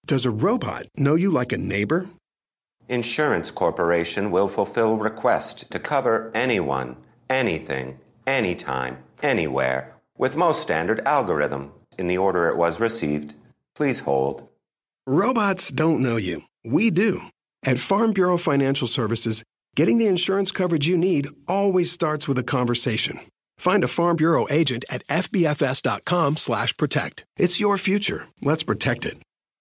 Does a robot know you like a neighbor? Insurance Corporation will fulfill requests to cover anyone, anything, anytime, anywhere, with most standard algorithm in the order it was received. Please hold. Robots don't know you. We do. At Farm Bureau Financial Services, getting the insurance coverage you need always starts with a conversation. Find a Farm Bureau agent at fbfs.com/protect. It's your future. Let's protect it.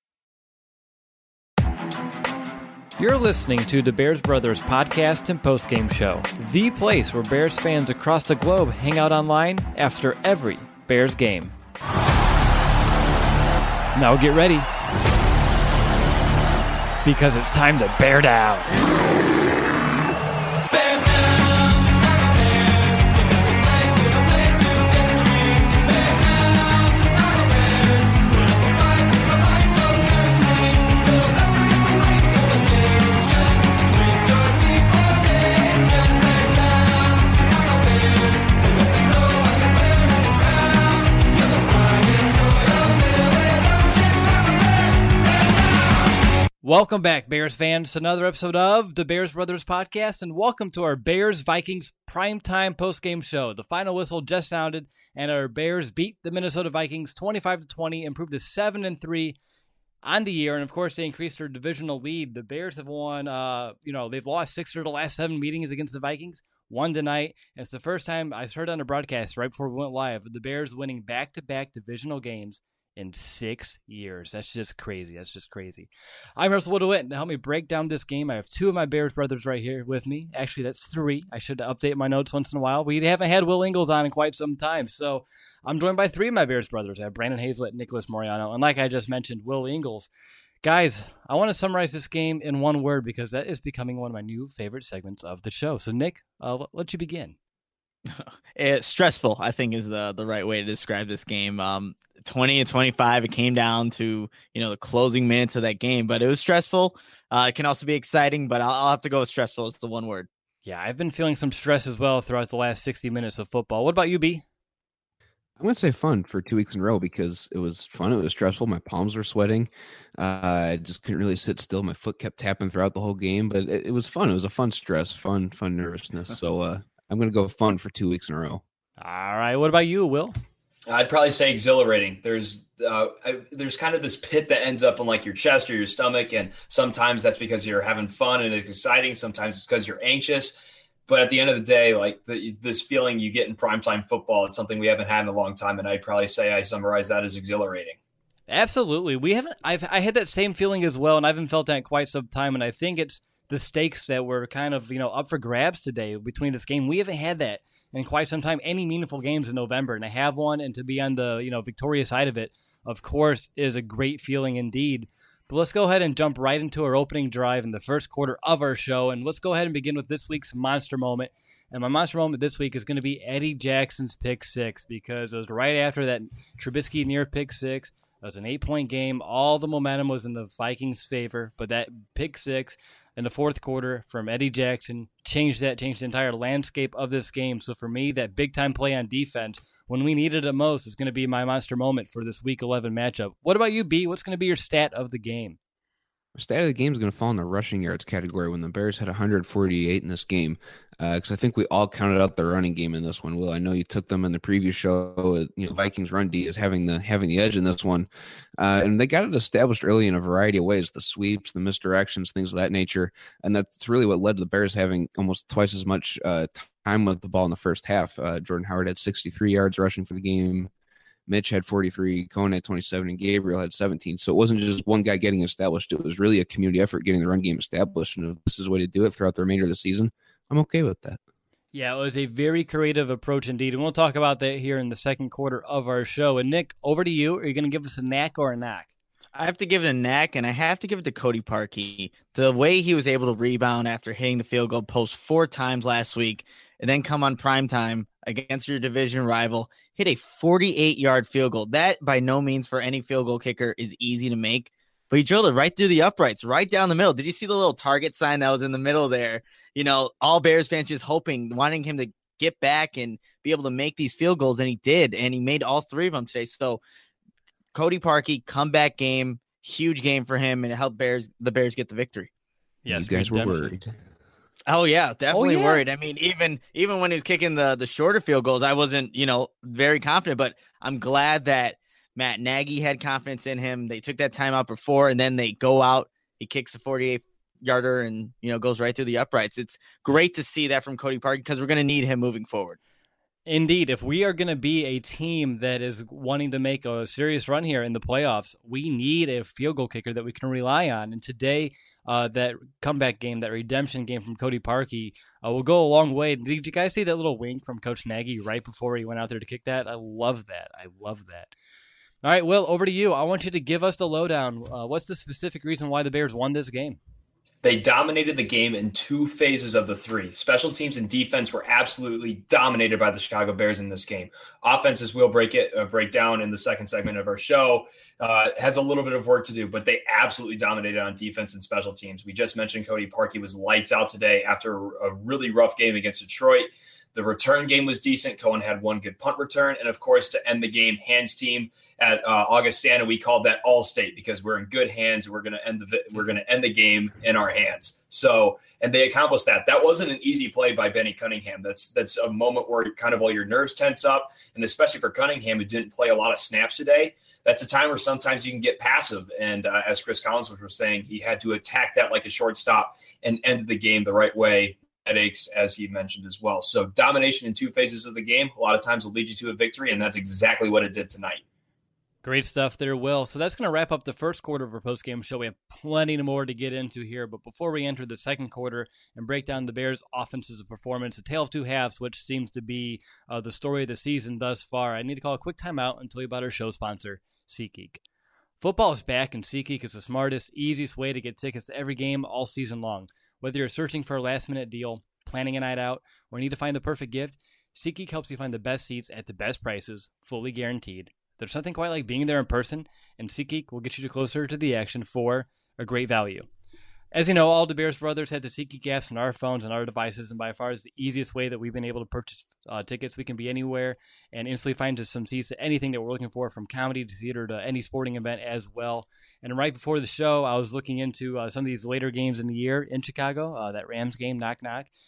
You're listening to the Bears Brothers podcast and postgame show, the place where Bears fans across the globe hang out online after every Bears game. Now get ready, because it's time to bear down. Welcome back, Bears fans, to another episode of the Bears Brothers podcast, and welcome to our Bears-Vikings primetime postgame show. The final whistle just sounded, and our Bears beat the Minnesota Vikings 25-20, improved to 7-3 on the year, and of course, they increased their divisional lead. The Bears have won, they've lost 6 of the last 7 meetings against the Vikings, one tonight, and it's the first time I heard on the broadcast right before we went live, the Bears winning back-to-back divisional games in 6 years. That's just crazy. I'm Russell Woodwitt, and to help me break down this game, I have 2 of my Bears brothers right here with me. Actually, that's 3. I should update my notes once in a while. We haven't had Will Ingles on in quite some time, so I'm joined by 3 of my Bears brothers. I have Brandon Hazlett, Nicholas Moriano, and like I just mentioned, Will Ingles. Guys, I want to summarize this game in one word because that is becoming one of my new favorite segments of the show. So, Nick, I'll let you begin. It's stressful, I think, is the right way to describe this game. 20-25, it came down to, the closing minutes of that game, but it was stressful. It can also be exciting, but I'll have to go with stressful. It's the one word. Yeah, I've been feeling some stress as well throughout the last 60 minutes of football. What about you, B? I'm going to say fun for 2 weeks in a row because it was fun. It was stressful. My palms were sweating. I just couldn't really sit still. My foot kept tapping throughout the whole game, but it was fun. It was a fun stress, fun nervousness. So I'm going to go fun for 2 weeks in a row. All right. What about you, Will? I'd probably say exhilarating. There's kind of this pit that ends up in like your chest or your stomach, and sometimes that's because you're having fun and it's exciting. Sometimes it's because you're anxious. But at the end of the day, like this feeling you get in primetime football, it's something we haven't had in a long time, and I'd probably say I summarize that as exhilarating. Absolutely. I had that same feeling as well, and I haven't felt that in quite some time, and I think it's the stakes that were kind of, up for grabs today between this game. We haven't had that in quite some time, any meaningful games in November, and I have one, and to be on the, victorious side of it, of course, is a great feeling indeed. But let's go ahead and jump right into our opening drive in the first quarter of our show, and let's go ahead and begin with this week's monster moment. And my monster moment this week is going to be Eddie Jackson's pick 6, because it was right after that Trubisky near pick 6. It was an 8-point game. All the momentum was in the Vikings' favor, but that pick 6 in the fourth quarter from Eddie Jackson changed the entire landscape of this game. So for me, that big-time play on defense, when we needed it most, is going to be my monster moment for this Week 11 matchup. What about you, B? What's going to be your stat of the game? Stat of the game is going to fall in the rushing yards category when the Bears had 148 in this game, because I think we all counted out the running game in this one. Will, I know you took them in the previous show. Vikings run D is having the edge in this one, and they got it established early in a variety of ways: the sweeps, the misdirections, things of that nature, and that's really what led to the Bears having almost twice as much time with the ball in the first half. Jordan Howard had 63 yards rushing for the game. Mitch had 43, Cohen had 27, and Gabriel had 17. So it wasn't just one guy getting established. It was really a community effort getting the run game established. And if this is the way to do it throughout the remainder of the season, I'm okay with that. Yeah, it was a very creative approach indeed. And we'll talk about that here in the second quarter of our show. And Nick, over to you. Are you going to give us a knack or a knock? I have to give it a knack, and I have to give it to Cody Parkey. The way he was able to rebound after hitting the field goal post 4 times last week, and then come on primetime against your division rival, hit a 48-yard field goal. That, by no means for any field goal kicker, is easy to make. But he drilled it right through the uprights, right down the middle. Did you see the little target sign that was in the middle there? All Bears fans just hoping, wanting him to get back and be able to make these field goals, and he did. And he made all 3 of them today. So Cody Parkey, comeback game. huge game for him, and it helped the Bears get the victory. Yes, you guys were worried. Oh yeah, definitely Oh, yeah. worried. I mean, even when he was kicking the shorter field goals, I wasn't, very confident, but I'm glad that Matt Nagy had confidence in him. They took that timeout before, and then they go out, he kicks a 48-yarder and, goes right through the uprights. It's great to see that from Cody Parkey because we're going to need him moving forward. Indeed, if we are going to be a team that is wanting to make a serious run here in the playoffs, we need a field goal kicker that we can rely on. And today, that comeback game, that redemption game from Cody Parkey will go a long way. Did you guys see that little wink from Coach Nagy right before he went out there to kick that? I love that. All right, Will, over to you. I want you to give us the lowdown. What's the specific reason why the Bears won this game? They dominated the game in two phases of the three. Special teams and defense were absolutely dominated by the Chicago Bears in this game. Offenses will break down in the second segment of our show. Has a little bit of work to do, but they absolutely dominated on defense and special teams. We just mentioned Cody Parkey was lights out today after a really rough game against Detroit. The return game was decent. Cohen had one good punt return. And, of course, to end the game, Hands team at Augustana, we called that All-State because we're in good hands. We're going to end the game in our hands. So, and they accomplished that. That wasn't an easy play by Benny Cunningham. That's a moment where kind of all your nerves tense up. And especially for Cunningham, who didn't play a lot of snaps today, that's a time where sometimes you can get passive. And as Chris Collins was saying, he had to attack that like a shortstop and end the game the right way. Headaches, as he mentioned as well. So domination in two phases of the game, a lot of times will lead you to a victory, and that's exactly what it did tonight. Great stuff there, Will. So that's going to wrap up the first quarter of our post-game show. We have plenty more to get into here, but before we enter the second quarter and break down the Bears' offense's performance, a tale of two halves, which seems to be the story of the season thus far, I need to call a quick timeout and tell you about our show sponsor, SeatGeek. Football is back, and SeatGeek is the smartest, easiest way to get tickets to every game all season long. Whether you're searching for a last-minute deal, planning a night out, or need to find the perfect gift, SeatGeek helps you find the best seats at the best prices, fully guaranteed. There's nothing quite like being there in person, and SeatGeek will get you closer to the action for a great value. As you know, all the Bears brothers had the SeatGeek apps on our phones and our devices, and by far is the easiest way that we've been able to purchase tickets. We can be anywhere and instantly find just some seats to anything that we're looking for, from comedy to theater to any sporting event as well. And right before the show, I was looking into some of these later games in the year in Chicago, that Rams game, knock.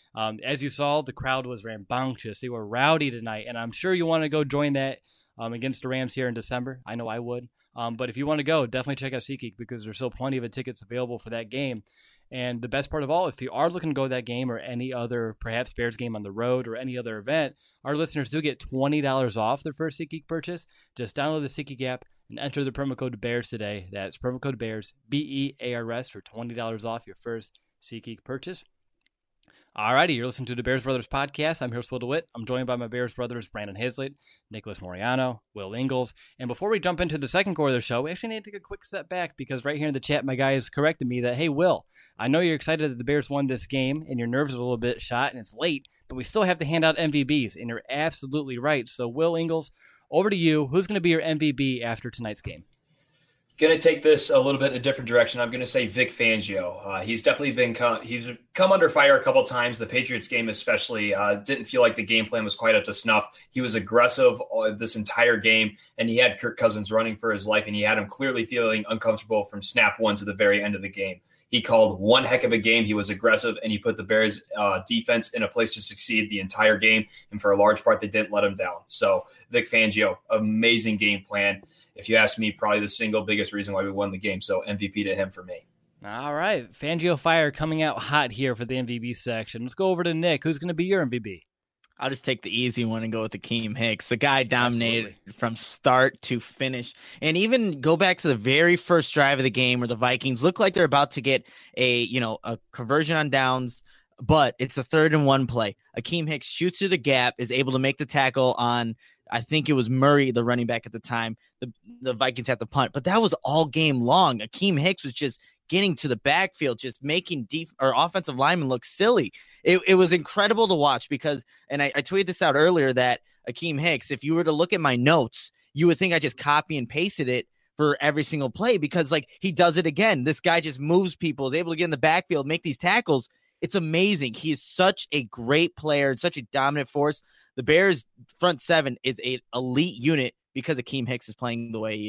As you saw, the crowd was rambunctious. They were rowdy tonight, and I'm sure you want to go join that against the Rams here in December. I know I would. But if you want to go, definitely check out SeatGeek because there's still plenty of tickets available for that game. And the best part of all, if you are looking to go to that game or any other, perhaps Bears game on the road or any other event, our listeners do get $20 off their first SeatGeek purchase. Just download the SeatGeek app and enter the promo code BEARS today. That's promo code BEARS, BEARS, for $20 off your first SeatGeek purchase. Alrighty, you're listening to the Bears Brothers Podcast. I'm here with Will DeWitt. I'm joined by my Bears brothers, Brandon Hazlett, Nicholas Moriano, Will Ingles. And before we jump into the second quarter of the show, we actually need to take a quick step back because right here in the chat, my guy has corrected me that, hey, Will, I know you're excited that the Bears won this game and your nerves are a little bit shot and it's late, but we still have to hand out MVBs, and you're absolutely right. So, Will Ingles, over to you. Who's going to be your MVP after tonight's game? Going to take this a little bit in a different direction. I'm going to say Vic Fangio. He's definitely he's come under fire a couple times. The Patriots game especially didn't feel like the game plan was quite up to snuff. He was aggressive this entire game, and he had Kirk Cousins running for his life, and he had him clearly feeling uncomfortable from snap one to the very end of the game. He called one heck of a game. He was aggressive, and he put the Bears defense in a place to succeed the entire game, and for a large part, they didn't let him down. So Vic Fangio, amazing game plan. If you ask me, probably the single biggest reason why we won the game. So MVP to him for me. All right. Fangio Fire coming out hot here for the MVP section. Let's go over to Nick. Who's going to be your MVP? I'll just take the easy one and go with Akeem Hicks. The guy dominated from start to finish. And even go back to the very first drive of the game where the Vikings look like they're about to get a conversion on downs, but it's a 3rd and 1 play. Akeem Hicks shoots through the gap, is able to make the tackle on, I think it was Murray, the running back at the time. The Vikings had to punt, but that was all game long. Akeem Hicks was just getting to the backfield, just making offensive linemen look silly. It was incredible to watch because, and I tweeted this out earlier, that Akeem Hicks, if you were to look at my notes, you would think I just copy and pasted it for every single play because, like, he does it again. This guy just moves people, is able to get in the backfield, make these tackles. It's amazing. He is such a great player and such a dominant force. The Bears front seven is an elite unit because Akeem Hicks is playing the way he is.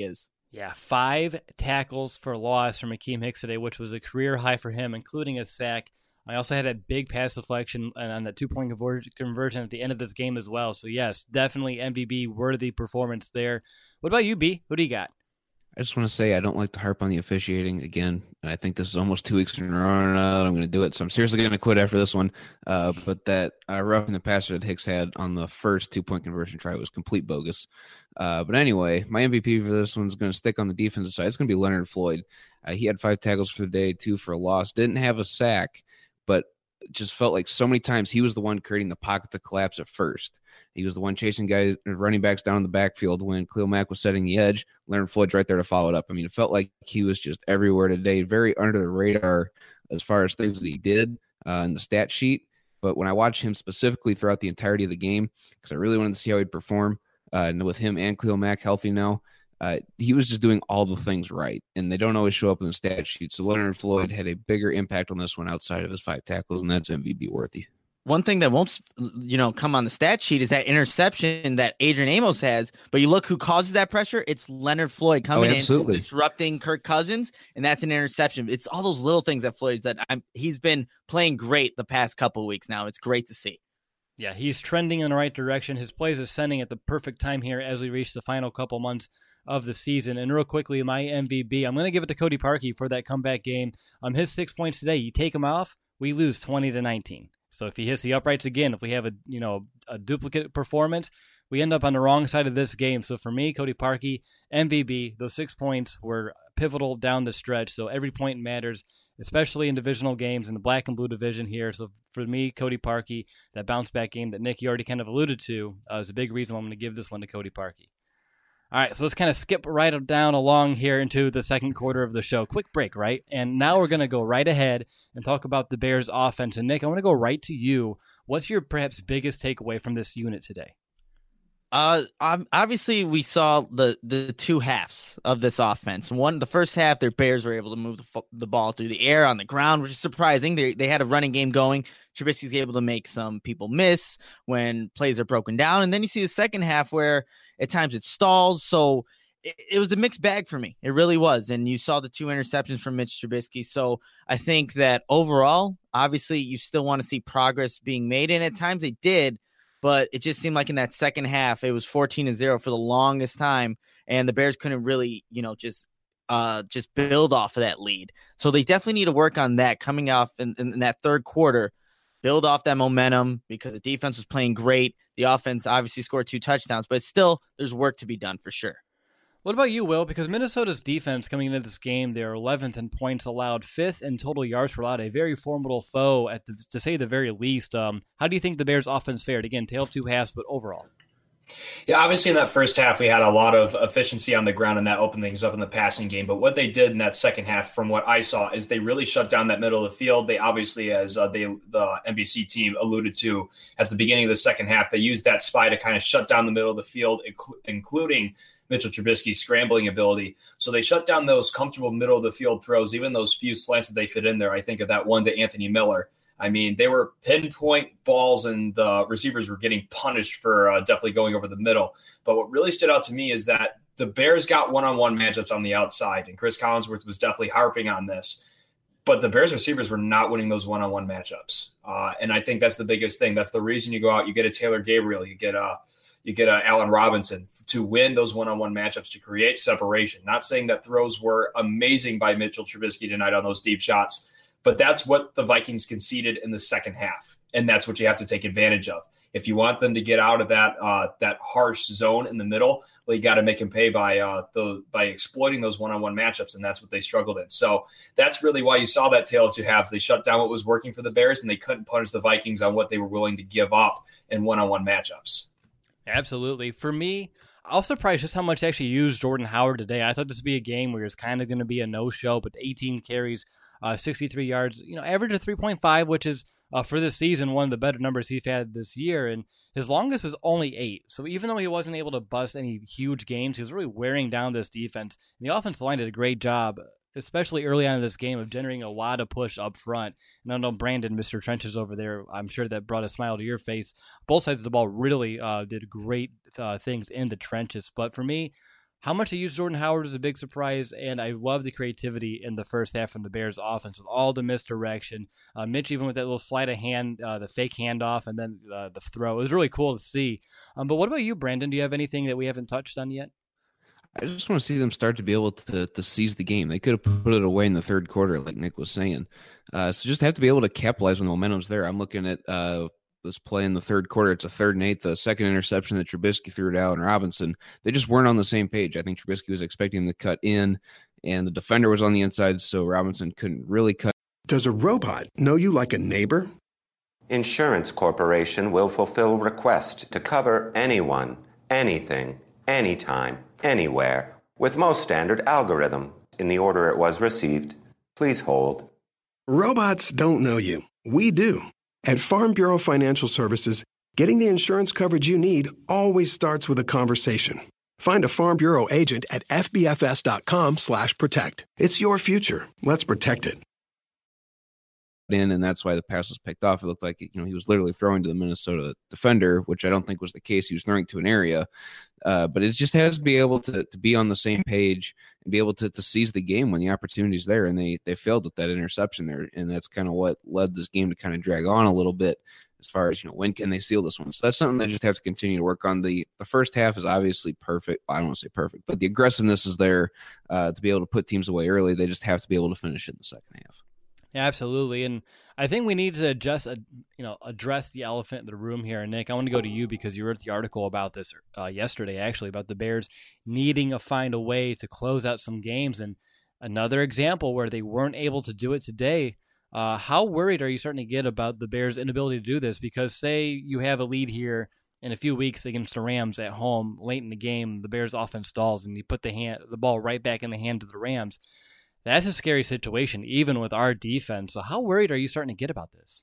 Yeah, 5 tackles for loss from Akeem Hicks today, which was a career high for him, including a sack. I also had a big pass deflection on that 2-point conversion at the end of this game as well. So, yes, definitely MVP-worthy performance there. What about you, B? Who do you got? I just want to say I don't like to harp on the officiating again, and I think this is almost 2 weeks in a row now that I'm going to do it. So I'm seriously going to quit after this one. But that roughing the passer that Hicks had on the first 2-point conversion try was complete bogus. But anyway, my MVP for this one's going to stick on the defensive side. It's going to be Leonard Floyd. He had 5 tackles for the day, 2 for a loss. Didn't have a sack, but just felt like so many times he was the one creating the pocket to collapse at first. He was the one chasing guys, running backs down in the backfield when Khalil Mack was setting the edge. Leonard Floyd's right there to follow it up. I mean, it felt like he was just everywhere today, very under the radar as far as things that he did in the stat sheet. But when I watched him specifically throughout the entirety of the game, because I really wanted to see how he'd perform, and with him and Khalil Mack healthy now, he was just doing all the things right, and they don't always show up in the stat sheet. So Leonard Floyd had a bigger impact on this one outside of his 5 tackles, and that's MVP worthy. One thing that won't, come on the stat sheet is that interception that Adrian Amos has. But you look who causes that pressure. It's Leonard Floyd coming in, disrupting Kirk Cousins, and that's an interception. It's all those little things that Floyd's that he's been playing great the past couple of weeks now. It's great to see. Yeah, he's trending in the right direction. His plays are sending at the perfect time here as we reach the final couple months of the season. And real quickly, my MVP, I'm going to give it to Cody Parkey for that comeback game. His 6 points today, you take him off, we lose 20-19. So if he hits the uprights again, if we have a duplicate performance, we end up on the wrong side of this game. So for me, Cody Parkey, MVP, those 6 points were pivotal down the stretch. So every point matters, especially in divisional games in the black and blue division here. So for me, Cody Parkey, that bounce back game that Nick, you already kind of alluded to, is a big reason why I'm going to give this one to Cody Parkey. All right, so let's kind of skip right down along here into the second quarter of the show. Quick break, right? And now we're going to go right ahead and talk about the Bears offense. And Nick, I want to go right to you. What's your perhaps biggest takeaway from this unit today? Obviously we saw the 2 halves of this offense. The first half, their Bears were able to move the ball through the air, on the ground, which is surprising. They had a running game going. Trubisky's able to make some people miss when plays are broken down. And then you see the second half where at times it stalls. So it was a mixed bag for me. It really was. And you saw the 2 interceptions from Mitch Trubisky. So I think that overall, obviously you still want to see progress being made. And at times they did. But it just seemed like in that second half, it was 14-0 for the longest time, and the Bears couldn't really, just build off of that lead. So they definitely need to work on that coming off in that third quarter, build off that momentum because the defense was playing great. The offense obviously scored 2 touchdowns, but still there's work to be done for sure. What about you, Will? Because Minnesota's defense coming into this game, they're 11th in points allowed, 5th in total yards per allowed, a very formidable foe to say the very least. How do you think the Bears' offense fared? Again, tale of 2 halves, but overall. Yeah, obviously in that first half, we had a lot of efficiency on the ground, and that opened things up in the passing game. But what they did in that second half, from what I saw, is they really shut down that middle of the field. They obviously, as the NBC team alluded to at the beginning of the second half, they used that spy to kind of shut down the middle of the field, including Mitchell Trubisky's scrambling ability. So they shut down those comfortable middle of the field throws, even those few slants that they fit in there. I think of that one to Anthony Miller. I mean, they were pinpoint balls, and the receivers were getting punished for definitely going over the middle. But what really stood out to me is that the Bears got one-on-one matchups on the outside, and Chris Collinsworth was definitely harping on this. But the Bears receivers were not winning those one-on-one matchups. And I think that's the biggest thing. That's the reason you go out, you get a Taylor Gabriel, you get a Allen Robinson to win those one-on-one matchups, to create separation. Not saying that throws were amazing by Mitchell Trubisky tonight on those deep shots, but that's what the Vikings conceded in the second half, and that's what you have to take advantage of. If you want them to get out of that harsh zone in the middle, well, you got to make them pay by exploiting those one-on-one matchups, and that's what they struggled in. So that's really why you saw that tale of 2 halves. They shut down what was working for the Bears, and they couldn't punish the Vikings on what they were willing to give up in one-on-one matchups. Absolutely. For me, I was surprised just how much they actually used Jordan Howard today. I thought this would be a game where it's kind of going to be a no-show, but 18 carries, 63 yards, average of 3.5, which is for this season one of the better numbers he's had this year. And his longest was only 8. So even though he wasn't able to bust any huge games, he was really wearing down this defense. And the offensive line did a great job, especially early on in this game, of generating a lot of push up front. And I know Brandon, Mr. Trenches over there, I'm sure that brought a smile to your face. Both sides of the ball really did great things in the trenches. But for me, How much they used Jordan Howard was a big surprise, and I love the creativity in the first half from the Bears offense with all the misdirection. Mitch, even with that little sleight of hand, the fake handoff, and then the throw. It was really cool to see. But what about you, Brandon? Do you have anything that we haven't touched on yet? I just want to see them start to be able to seize the game. They could have put it away in the third quarter, like Nick was saying. So just have to be able to capitalize when the momentum's there. I'm looking at this play in the third quarter. It's a 3rd and 8, the second interception that Trubisky threw to Allen Robinson. They just weren't on the same page. I think Trubisky was expecting him to cut in, and the defender was on the inside, so Robinson couldn't really cut. Does a robot know you like a neighbor? Insurance Corporation will fulfill request to cover anyone, anything, anytime, anywhere, with most standard algorithm in the order it was received. Please hold. Robots don't know you. We do. At Farm Bureau Financial Services, getting the insurance coverage you need always starts with a conversation. Find a Farm Bureau agent at fbfs.com/protect. It's your future. Let's protect it. And that's why the pass was picked off. It looked like he was literally throwing to the Minnesota defender, which I don't think was the case. He was throwing to an area, but it just has to be able to be on the same page and be able to seize the game when the opportunity's there. And they failed with that interception there, and that's kind of what led this game to kind of drag on a little bit as far as when can they seal this one. So that's something they just have to continue to work on. The first half is obviously perfect. Well, I don't want to say perfect, but the aggressiveness is there to be able to put teams away early. They just have to be able to finish it in the second half. Yeah, absolutely. And I think we need to address the elephant in the room here. And Nick, I want to go to you because you wrote the article about this yesterday, actually, about the Bears needing to find a way to close out some games. And another example where they weren't able to do it today. How worried are you starting to get about the Bears' inability to do this? Because say you have a lead here in a few weeks against the Rams at home, late in the game, the Bears offense stalls, and you put the ball right back in the hands of the Rams. That's a scary situation, even with our defense. So how worried are you starting to get about this?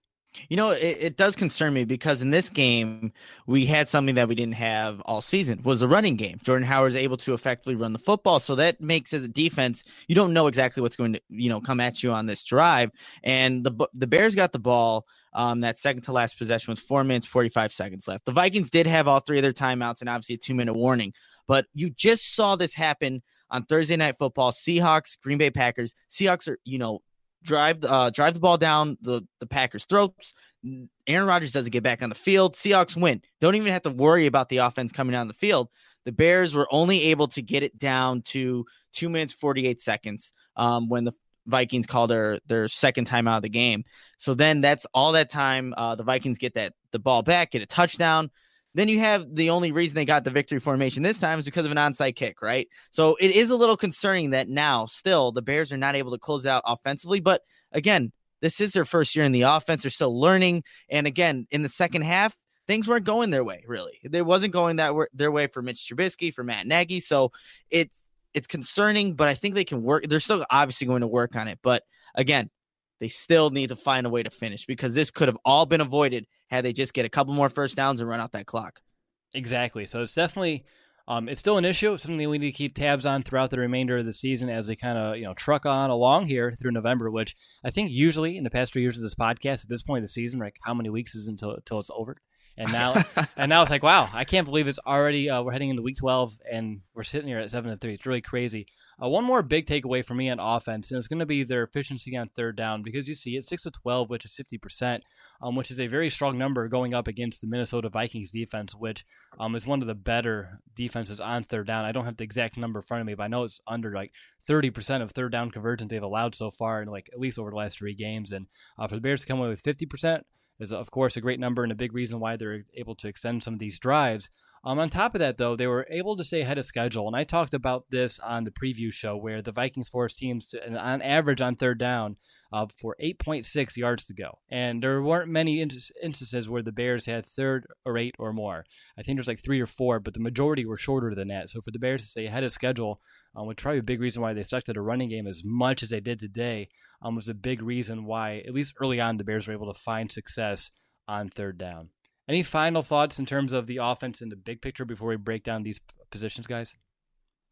It does concern me because in this game, we had something that we didn't have all season, was the running game. Jordan Howard is able to effectively run the football. So that makes, as a defense, you don't know exactly what's going to, come at you on this drive. And the Bears got the ball that second to last possession with 4 minutes, 45 seconds left. The Vikings did have all 3 of their timeouts and obviously a 2-minute warning. But you just saw this happen on Thursday Night Football. Seahawks, Green Bay Packers. Seahawks are, drive the ball down the Packers' throats. Aaron Rodgers doesn't get back on the field. Seahawks win. Don't even have to worry about the offense coming down the field. The Bears were only able to get it down to 2 minutes, 48 seconds when the Vikings called their second time out of the game. So then that's all that time. The Vikings get the ball back, get a touchdown. Then you have the only reason they got the victory formation this time is because of an onside kick, right? So it is a little concerning that now still the Bears are not able to close out offensively. But again, this is their first year in the offense. They're still learning. And again, in the second half, things weren't going their way, really. They wasn't going their way for Mitch Trubisky, for Matt Nagy. So it's concerning, but I think they can work. They're still obviously going to work on it. But again, they still need to find a way to finish because this could have all been avoided had they just get a couple more first downs and run out that clock. Exactly. So it's definitely it's still an issue, something we need to keep tabs on throughout the remainder of the season as we kind of truck on along here through November, which I think usually in the past 3 years of this podcast at this point of the season, like how many weeks is until it's over? And now it's like, wow, I can't believe it's already we're heading into week 12 and we're sitting here at 7-3. It's really crazy. One more big takeaway for me on offense, and it's going to be their efficiency on third down because you see it's 6-12, which is 50%, which is a very strong number going up against the Minnesota Vikings defense, which is one of the better defenses on third down. I don't have the exact number in front of me, but I know it's under like 30% of third down conversions they've allowed so far in like at least over the last 3 games. And for the Bears to come away with 50%, is, of course, a great number and a big reason why they're able to extend some of these drives. On top of that, though, they were able to stay ahead of schedule. And I talked about this on the preview show where the Vikings forced teams to, on average on third down for 8.6 yards to go. And there weren't many instances where the Bears had third or 8 or more. I think there's like 3 or 4, but the majority were shorter than that. So for the Bears to stay ahead of schedule, which probably a big reason why they stuck to the running game as much as they did today, was a big reason why, at least early on, the Bears were able to find success on third down. Any final thoughts in terms of the offense in the big picture before we break down these positions, guys?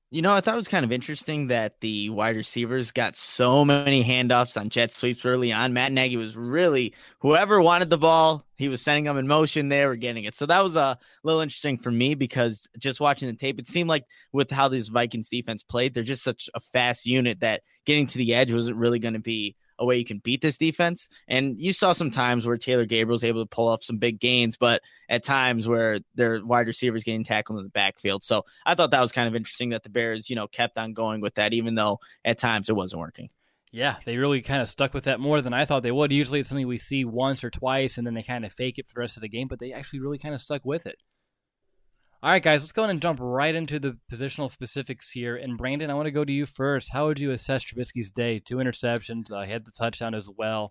I thought it was kind of interesting that the wide receivers got so many handoffs on jet sweeps early on. Matt Nagy was really, whoever wanted the ball, he was sending them in motion, they were getting it. So that was a little interesting for me because just watching the tape, it seemed like with how these Vikings defense played, they're just such a fast unit that getting to the edge wasn't really going to be a way you can beat this defense. And you saw some times where Taylor Gabriel was able to pull off some big gains, but at times where their wide receivers getting tackled in the backfield. So I thought that was kind of interesting that the Bears, kept on going with that, even though at times it wasn't working. Yeah, they really kind of stuck with that more than I thought they would. Usually it's something we see once or twice, and then they kind of fake it for the rest of the game, but they actually really kind of stuck with it. All right, guys, let's go ahead and jump right into the positional specifics here. And Brandon, I want to go to you first. How would you assess Trubisky's day? 2 interceptions, he had the touchdown as well.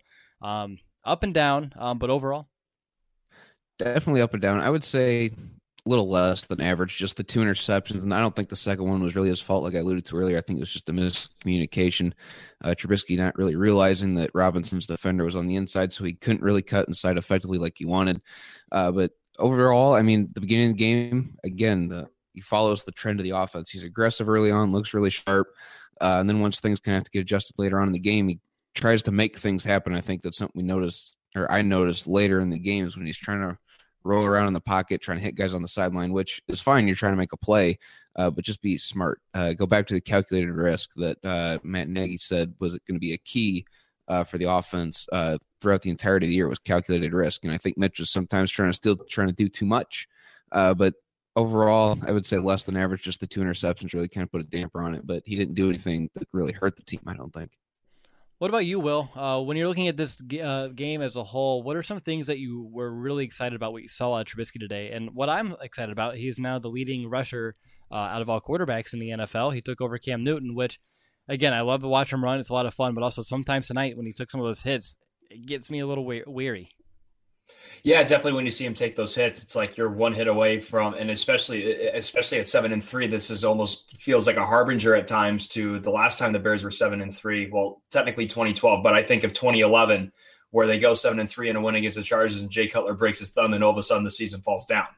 Up and down, but overall? Definitely up and down. I would say a little less than average, just the 2 interceptions. And I don't think the second one was really his fault, like I alluded to earlier. I think it was just a miscommunication. Trubisky not really realizing that Robinson's defender was on the inside, so he couldn't really cut inside effectively like he wanted. But overall, I mean, the beginning of the game, again, he follows the trend of the offense. He's aggressive early on, looks really sharp. And then once things kind of have to get adjusted later on in the game, he tries to make things happen. I think that's something I noticed later in the games when he's trying to roll around in the pocket, trying to hit guys on the sideline, which is fine. You're trying to make a play, but just be smart. Go back to the calculated risk that Matt Nagy said was going to be a key for the offense throughout the entirety of the year was calculated risk. And I think Mitch was sometimes trying to do too much. But overall, I would say less than average. Just the 2 interceptions really kind of put a damper on it. But he didn't do anything that really hurt the team, I don't think. What about you, Will? When you're looking at this game as a whole, what are some things that you were really excited about what you saw out of Trubisky today? And what I'm excited about, he's now the leading rusher out of all quarterbacks in the NFL. He took over Cam Newton, which, again, I love to watch him run. It's a lot of fun, but also sometimes tonight when he took some of those hits, it gets me a little weary. Yeah, definitely. When you see him take those hits, it's like you're one hit away from, and especially at 7-3, this is almost feels like a harbinger at times to the last time the Bears were 7-3. Well, technically 2012, but I think of 2011 where they go 7-3 in a win against the Chargers and Jay Cutler breaks his thumb and all of a sudden the season falls down.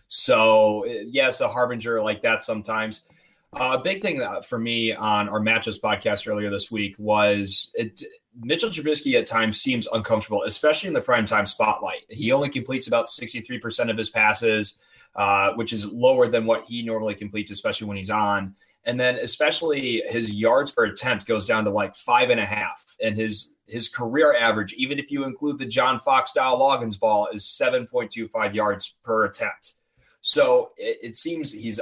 So yes, a harbinger like that sometimes. A big thing for me on our Matchups podcast earlier this week was Mitchell Trubisky at times seems uncomfortable, especially in the primetime spotlight. He only completes about 63% of his passes, which is lower than what he normally completes, especially when he's on. And then especially his yards per attempt goes down to like 5.5. And his career average, even if you include the John Fox style Loggins ball, is 7.25 yards per attempt. So it seems he's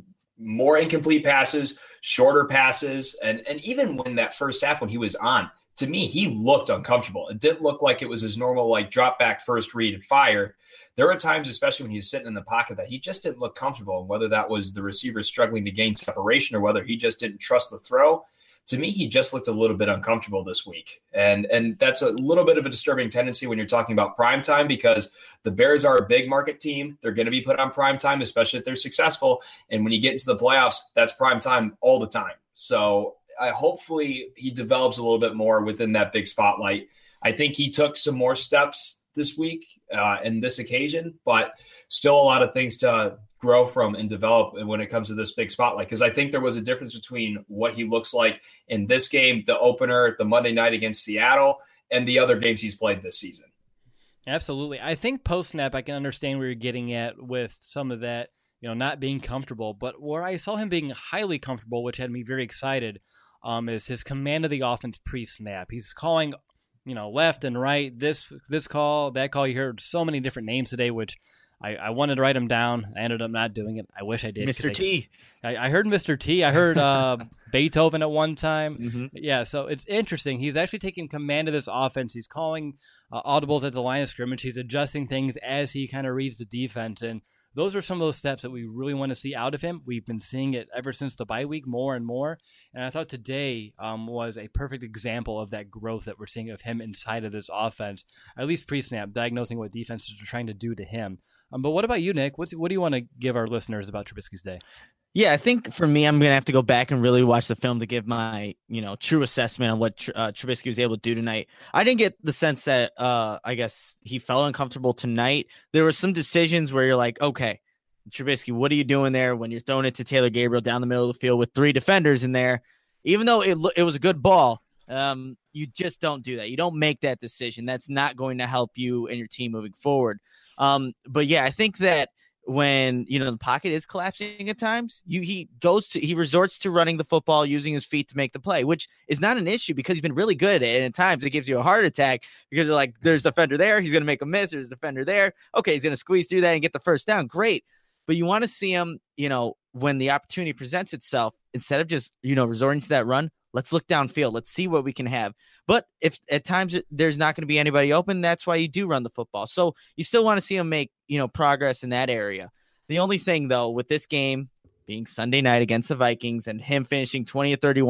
more incomplete passes, shorter passes. And even when that first half, when he was on, to me, he looked uncomfortable. It didn't look like it was his normal, like, drop back, first read, and fire. There were times, especially when he was sitting in the pocket, that he just didn't look comfortable. And whether that was the receiver struggling to gain separation or whether he just didn't trust the throw, to me, he just looked a little bit uncomfortable this week. And that's a little bit of a disturbing tendency when you're talking about primetime, because the Bears are a big market team. They're going to be put on primetime, especially if they're successful. And when you get into the playoffs, that's primetime all the time. So hopefully he develops a little bit more within that big spotlight. I think he took some more steps this week in this occasion, but still a lot of things to grow from and develop when it comes to this big spotlight. Because I think there was a difference between what he looks like in this game, the opener, the Monday night against Seattle, and the other games he's played this season. Absolutely. I think post-snap, I can understand where you're getting at with some of that, not being comfortable. But where I saw him being highly comfortable, which had me very excited, is his command of the offense pre-snap. He's calling, left and right, this call, that call. You heard so many different names today, which I wanted to write them down. I ended up not doing it. I wish I did. Mr. T. I heard Mr. T. I heard Beethoven at one time. Mm-hmm. Yeah, so it's interesting. He's actually taking command of this offense. He's calling audibles at the line of scrimmage. He's adjusting things as he kind of reads the defense. And those are some of those steps that we really want to see out of him. We've been seeing it ever since the bye week more and more. And I thought today was a perfect example of that growth that we're seeing of him inside of this offense, at least pre-snap, diagnosing what defenses are trying to do to him. But what about you, Nick? What do you want to give our listeners about Trubisky's day? Yeah, I think for me, I'm going to have to go back and really watch the film to give my, true assessment on what Trubisky was able to do tonight. I didn't get the sense that I guess he felt uncomfortable tonight. There were some decisions where you're like, okay, Trubisky, what are you doing there when you're throwing it to Taylor Gabriel down the middle of the field with 3 defenders in there? Even though it was a good ball, you just don't do that. You don't make that decision. That's not going to help you and your team moving forward. But yeah, I think that when, the pocket is collapsing at times, he resorts to running the football, using his feet to make the play, which is not an issue because he's been really good at it. And at times it gives you a heart attack because you're like, there's a defender there. He's going to make a miss. There's a defender there. Okay. He's going to squeeze through that and get the first down. Great. But you want to see him, when the opportunity presents itself, instead of just, resorting to that run, let's look downfield. Let's see what we can have. But if at times there's not going to be anybody open, that's why you do run the football. So you still want to see him make, progress in that area. The only thing, though, with this game being Sunday night against the Vikings and him finishing 20-31,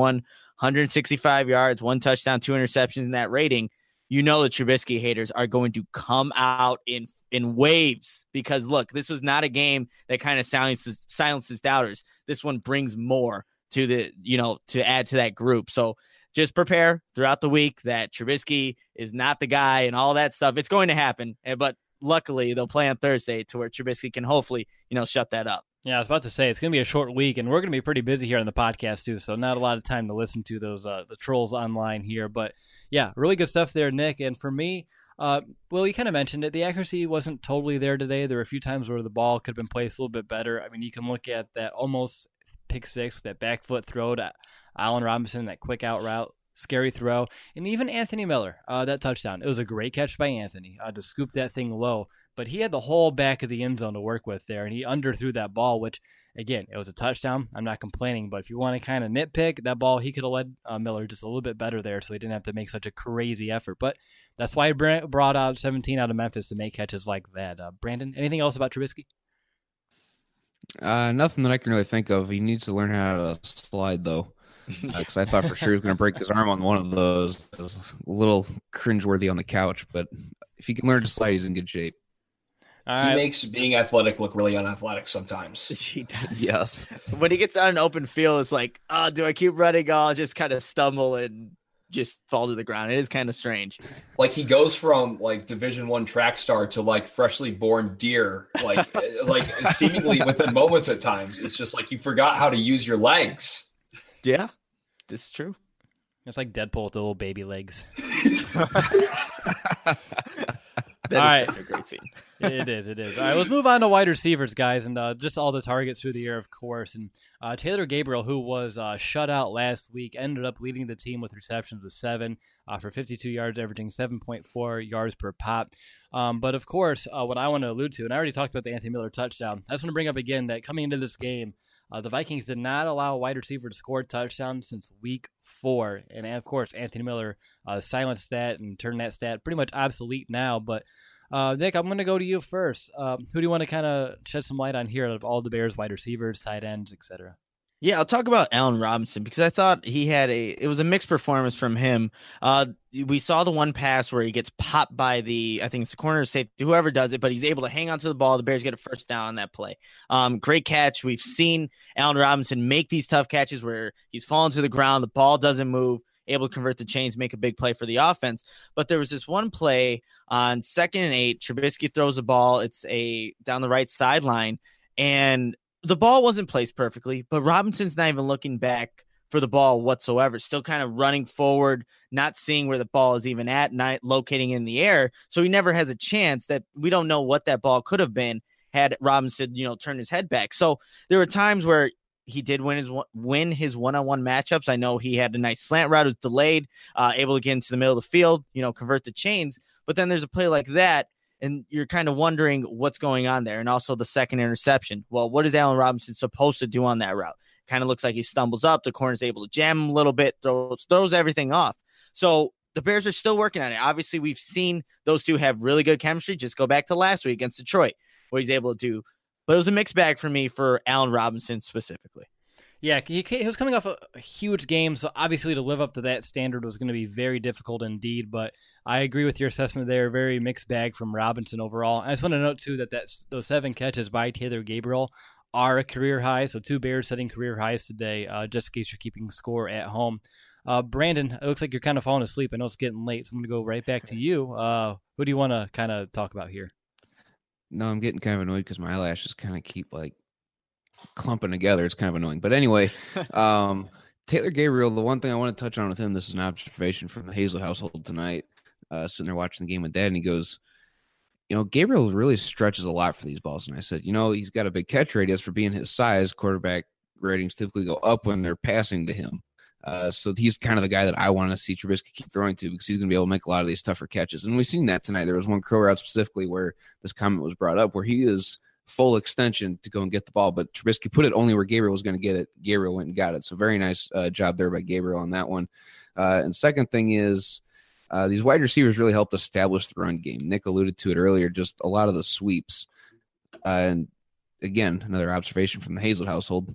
165 yards, 1 touchdown, 2 interceptions in that rating, the Trubisky haters are going to come out in waves because, look, this was not a game that kind of silences doubters. This one brings more to to add to that group. So just prepare throughout the week that Trubisky is not the guy and all that stuff. It's going to happen, but luckily they'll play on Thursday to where Trubisky can hopefully, shut that up. Yeah, I was about to say it's going to be a short week, and we're going to be pretty busy here on the podcast too, so not a lot of time to listen to those the trolls online here. But yeah, really good stuff there, Nick. And for me, well, you kind of mentioned it. The accuracy wasn't totally there today. There were a few times where the ball could have been placed a little bit better. I mean, you can look at that almost pick six with that back foot throw to Allen Robinson, that quick out route, scary throw, and even Anthony Miller, that touchdown. It was a great catch by Anthony to scoop that thing low, but he had the whole back of the end zone to work with there, and he underthrew that ball, which, again, it was a touchdown. I'm not complaining, but if you want to kind of nitpick, that ball, he could have led Miller just a little bit better there, so he didn't have to make such a crazy effort. But that's why he brought out 17 out of Memphis to make catches like that. Brandon, anything else about Trubisky? Nothing that I can really think of. He needs to learn how to slide, though. Because I thought for sure he was going to break his arm on one of those. It was a little cringeworthy on the couch, but if he can learn to slide, he's in good shape. He makes being athletic look really unathletic sometimes. He does. Yes. When he gets on an open field, it's like, do I keep running? I'll just kind of stumble and just fall to the ground. It is kind of strange. Like he goes from like Division I track star to like freshly born deer, like seemingly within moments at times. It's just like you forgot how to use your legs. Yeah, this is true. It's like Deadpool with the little baby legs. That is such a great scene. It is. All right, let's move on to wide receivers, guys, and just all the targets through the air, of course. And Taylor Gabriel, who was shut out last week, ended up leading the team with receptions of 7 for 52 yards, averaging 7.4 yards per pop. But, of course, what I want to allude to, and I already talked about the Anthony Miller touchdown, I just want to bring up again that coming into this game, the Vikings did not allow a wide receiver to score a touchdown since week 4. And, of course, Anthony Miller silenced that and turned that stat pretty much obsolete now. But, Nick, I'm going to go to you first. Who do you want to kind of shed some light on here out of all the Bears wide receivers, tight ends, etc.? Yeah, I'll talk about Allen Robinson because I thought it was a mixed performance from him. We saw the one pass where he gets popped by I think it's the corner safety, whoever does it, but he's able to hang on to the ball. The Bears get a first down on that play. Great catch. We've seen Allen Robinson make these tough catches where he's fallen to the ground, the ball doesn't move, able to convert the chains, make a big play for the offense. But there was this one play on 2nd and 8. Trubisky throws the ball. It's down the right sideline, and the ball wasn't placed perfectly, but Robinson's not even looking back for the ball whatsoever, still kind of running forward, not seeing where the ball is even at, not locating in the air. So he never has a chance. That we don't know what that ball could have been had Robinson, turned his head back. So there were times where he did win his one-on-one matchups. I know he had a nice slant route, it was delayed, able to get into the middle of the field, convert the chains. But then there's a play like that, and you're kind of wondering what's going on there. And also the second interception. Well, what is Allen Robinson supposed to do on that route? Kind of looks like he stumbles up. The corner's able to jam him a little bit, throws everything off. So the Bears are still working on it. Obviously, we've seen those two have really good chemistry. Just go back to last week against Detroit, what he's able to do. But it was a mixed bag for me for Allen Robinson specifically. Yeah, he was coming off a huge game, so obviously to live up to that standard was going to be very difficult indeed, but I agree with your assessment there. Very mixed bag from Robinson overall. I just want to note, too, that those 7 catches by Taylor Gabriel are a career high, so 2 Bears setting career highs today, just in case you're keeping score at home. Brandon, it looks like you're kind of falling asleep. I know it's getting late, so I'm going to go right back to you. Who do you want to kind of talk about here? No, I'm getting kind of annoyed because my eyelashes kind of keep like clumping together. It's kind of annoying. But anyway, Taylor Gabriel, the one thing I want to touch on with him, this is an observation from the Hazlett household tonight, sitting there watching the game with Dad, and he goes, Gabriel really stretches a lot for these balls. And I said, he's got a big catch radius for being his size. Quarterback ratings typically go up when they're passing to him. So he's kind of the guy that I want to see Trubisky keep throwing to because he's going to be able to make a lot of these tougher catches. And we've seen that tonight. There was one crow route specifically where this comment was brought up where he is full extension to go and get the ball, but Trubisky put it only where Gabriel was going to get it. Gabriel went and got it. So very nice job there by Gabriel on that one. And second thing is these wide receivers really helped establish the run game. Nick alluded to it earlier, just a lot of the sweeps. And again, another observation from the Hazlett household.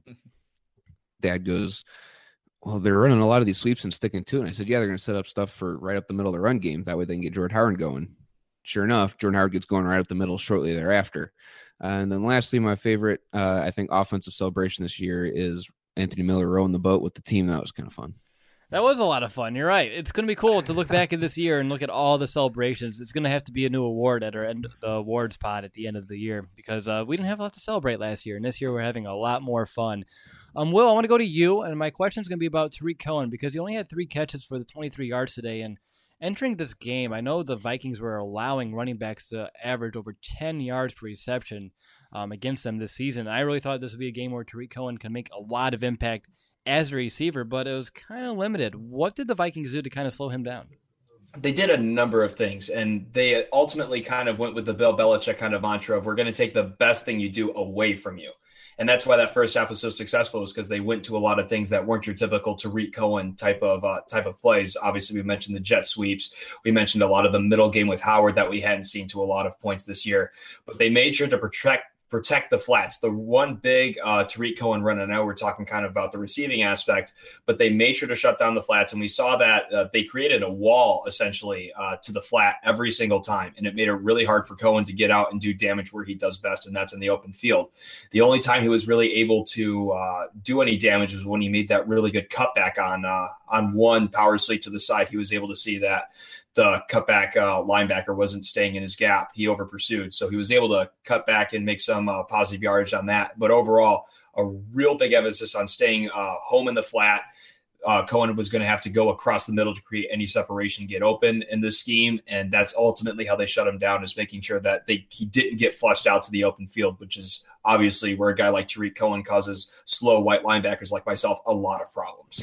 Dad goes, well, they're running a lot of these sweeps and sticking to it. And I said, yeah, they're going to set up stuff for right up the middle of the run game. That way they can get Jordan Howard going. Sure enough, Jordan Howard gets going right up the middle shortly thereafter. And then lastly, my favorite, I think, offensive celebration this year is Anthony Miller rowing the boat with the team. That was kind of fun. That was a lot of fun. You're right. It's going to be cool to look back at this year and look at all the celebrations. It's going to have to be a new award at our end, the awards pod at the end of the year because we didn't have a lot to celebrate last year, and this year we're having a lot more fun. Will, I want to go to you, and my question is going to be about Tarik Cohen because he only had 3 catches for the 23 yards today. And entering this game, I know the Vikings were allowing running backs to average over 10 yards per reception against them this season. I really thought this would be a game where Tarik Cohen can make a lot of impact as a receiver, but it was kind of limited. What did the Vikings do to kind of slow him down? They did a number of things, and they ultimately kind of went with the Bill Belichick kind of mantra of we're going to take the best thing you do away from you. And that's why that first half was so successful is because they went to a lot of things that weren't your typical Tarik Cohen type of plays. Obviously, we mentioned the jet sweeps. We mentioned a lot of the middle game with Howard that we hadn't seen to a lot of points this year. But they made sure to protect the flats. The one big Tarik Cohen run, and I know we're talking kind of about the receiving aspect, but they made sure to shut down the flats. And we saw that they created a wall essentially to the flat every single time. And it made it really hard for Cohen to get out and do damage where he does best, and that's in the open field. The only time he was really able to do any damage was when he made that really good cutback on one power sweep to the side. He was able to see that the cutback linebacker wasn't staying in his gap. He over pursued. So he was able to cut back and make some positive yardage on that. But overall, a real big emphasis on staying home in the flat. Cohen was going to have to go across the middle to create any separation and get open in this scheme. And that's ultimately how they shut him down, is making sure that he didn't get flushed out to the open field, which is obviously where a guy like Tarik Cohen causes slow white linebackers like myself a lot of problems.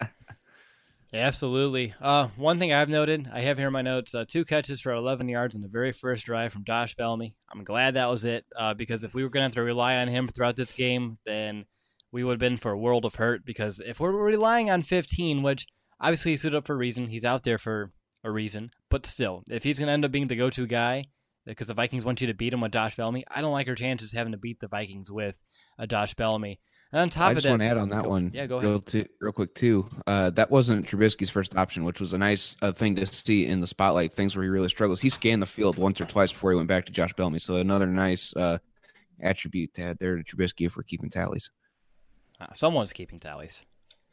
Yeah, absolutely. One thing I've noted, I have here in my notes, 2 catches for 11 yards in the very first drive from Josh Bellamy. I'm glad that was it because if we were going to have to rely on him throughout this game, then we would have been for a world of hurt because if we're relying on 15, which obviously he stood up for a reason, he's out there for a reason, but still, if he's going to end up being the go-to guy because the Vikings want you to beat him with Josh Bellamy, I don't like our chances having to beat the Vikings with Josh Bellamy. And on top I just want to add on that one go ahead. real quick, too. That wasn't Trubisky's first option, which was a nice thing to see in the spotlight, things where he really struggles. He scanned the field once or twice before he went back to Josh Bellamy. So another nice attribute to add there to Trubisky if we're keeping tallies. Someone's keeping tallies.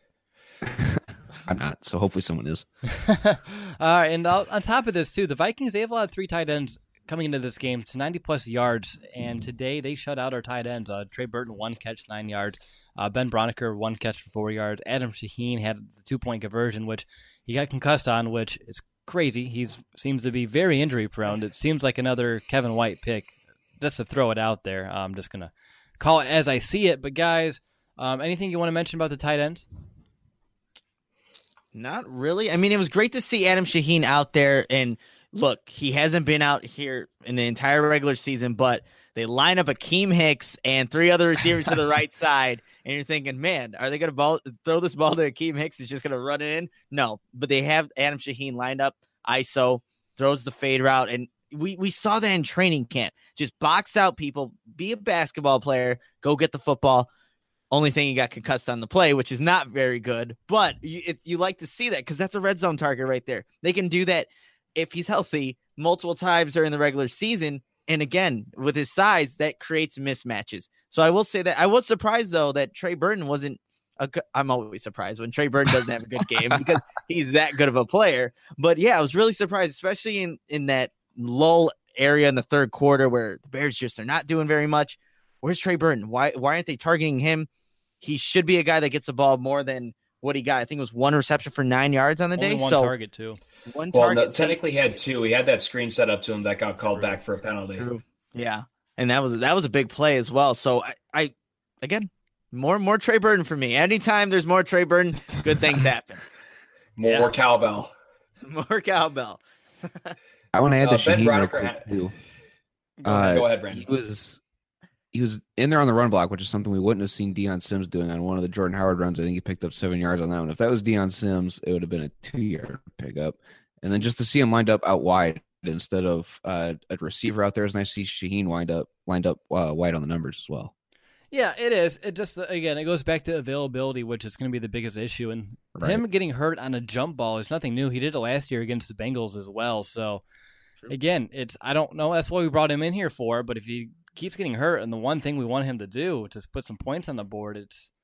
I'm not, so hopefully someone is. And on top of this, too, the Vikings, they have allowed 3 tight ends coming into this game to 90-plus yards, and today they shut out our tight ends. Trey Burton, 1 catch, 9 yards. Ben Broniker, 1 catch for 4 yards. Adam Shaheen had the 2-point conversion, which he got concussed on, which is crazy. He seems to be very injury-prone. It seems like another Kevin White pick. Just to throw it out there, I'm just going to call it as I see it. But, guys, anything you want to mention about the tight ends? Not really. I mean, it was great to see Adam Shaheen out there, and look, he hasn't been out here in the entire regular season, but they line up Akeem Hicks and 3 other receivers to the right side, and you're thinking, man, are they going to throw this ball to Akeem Hicks? He's just going to run it in? No, but they have Adam Shaheen lined up, ISO, throws the fade route, and we saw that in training camp. Just box out people, be a basketball player, go get the football. Only thing he got concussed on the play, which is not very good, but you like to see that because that's a red zone target right there. They can do that if he's healthy multiple times during the regular season. And again, with his size, that creates mismatches. So I will say that I was surprised, though, that Trey Burton wasn't I'm always surprised when Trey Burton doesn't have a good game because he's that good of a player. But yeah, I was really surprised, especially in that lull area in the third quarter where the Bears just are not doing very much. Where's Trey Burton? Why aren't they targeting him? He should be a guy that gets the ball more than what he got. I think it was 1 reception for 9 yards on the day. One target too. One well, target. No, technically he had 2. He had that screen set up to him that got called back for a penalty. True. Yeah, and that was a big play as well. So I again, more Trey Burton for me. Anytime there's more Trey Burton, good things happen. More cowbell. More cowbell. I want to add the Ben Shaheen real Broniker quick, too. Go ahead, Brandon. He was in there on the run block, which is something we wouldn't have seen Deion Sims doing on one of the Jordan Howard runs. I think he picked up 7 yards on that one. If that was Deion Sims, it would have been a 2-yard pickup. And then just to see him lined up out wide instead of a receiver out there is nice to see Shaheen lined up wide on the numbers as well. Yeah, it is. It just, again, it goes back to availability, which is going to be the biggest issue. And him getting hurt on a jump ball is nothing new. He did it last year against the Bengals as well. So, again, I don't know. That's what we brought him in here for. But if he keeps getting hurt, and the one thing we want him to do to put some points on the board,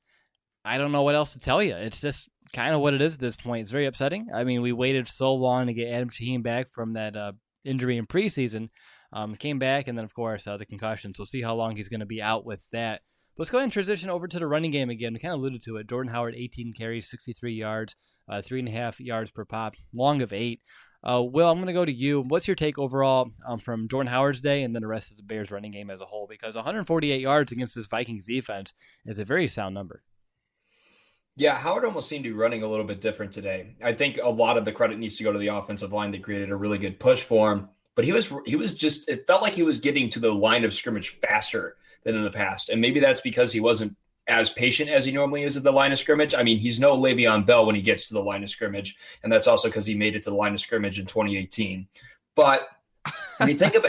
I don't know what else to tell you. It's just kind of what it is at this point. It's very upsetting. I mean, we waited so long to get Adam Shaheen back from that injury in preseason. Came back, and then, of course, the concussion. So we'll see how long he's going to be out with that. Let's go ahead and transition over to the running game again. We kind of alluded to it. Jordan Howard, 18 carries, 63 yards, 3.5 yards per pop, long of 8. Will, I'm going to go to you. What's your take overall from Jordan Howard's day and then the rest of the Bears running game as a whole? Because 148 yards against this Vikings defense is a very sound number. Yeah, Howard almost seemed to be running a little bit different today. I think a lot of the credit needs to go to the offensive line that created a really good push for him. But he was just, it felt like he was getting to the line of scrimmage faster than in the past. And maybe that's because he wasn't as patient as he normally is at the line of scrimmage. I mean, he's no Le'Veon Bell when he gets to the line of scrimmage. And that's also because he made it to the line of scrimmage in 2018. But when you think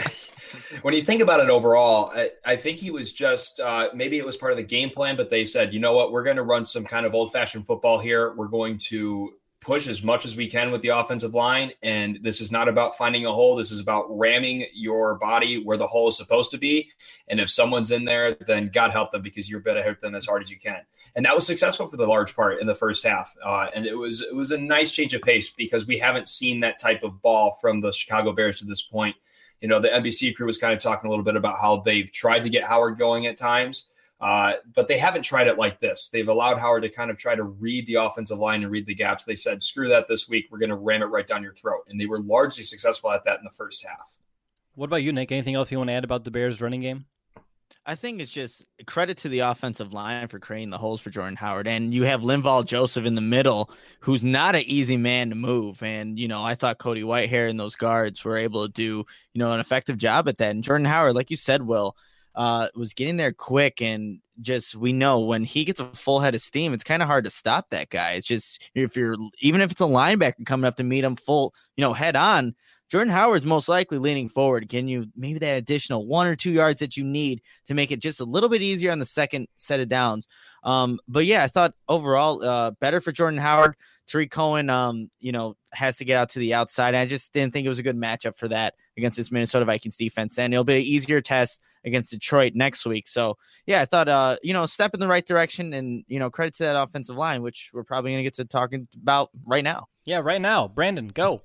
about it overall, I think he was just, maybe it was part of the game plan, but they said, you know what, we're going to run some kind of old fashioned football here. We're going to push as much as we can with the offensive line. And this is not about finding a hole. This is about ramming your body where the hole is supposed to be. And if someone's in there, then God help them, because you're going to hit them as hard as you can. And that was successful for the large part in the first half. And it was a nice change of pace, because we haven't seen that type of ball from the Chicago Bears to this point. You know, the NBC crew was kind of talking a little bit about how they've tried to get Howard going at times. But they haven't tried it like this. They've allowed Howard to kind of try to read the offensive line and read the gaps. They said, screw that this week. We're going to ram it right down your throat. And they were largely successful at that in the first half. What about you, Nick? Anything else you want to add about the Bears running game? I think it's just credit to the offensive line for creating the holes for Jordan Howard. And you have Linval Joseph in the middle, who's not an easy man to move. And, you know, I thought Cody Whitehair and those guards were able to do, you know, an effective job at that. And Jordan Howard, like you said, Will, was getting there quick, and just, we know when he gets a full head of steam, it's kind of hard to stop that guy. It's just, even if it's a linebacker coming up to meet him full, you know, head on, Jordan Howard's most likely leaning forward, getting you maybe that additional 1 or 2 yards that you need to make it just a little bit easier on the second set of downs. But yeah, I thought overall better for Jordan Howard. Tariq Cohen, you know, has to get out to the outside. I just didn't think it was a good matchup for that against this Minnesota Vikings defense. And it'll be an easier test against Detroit next week. So, yeah, I thought, you know, step in the right direction, and, you know, credit to that offensive line, which we're probably going to get to talking about right now. Yeah, right now. Brandon, go.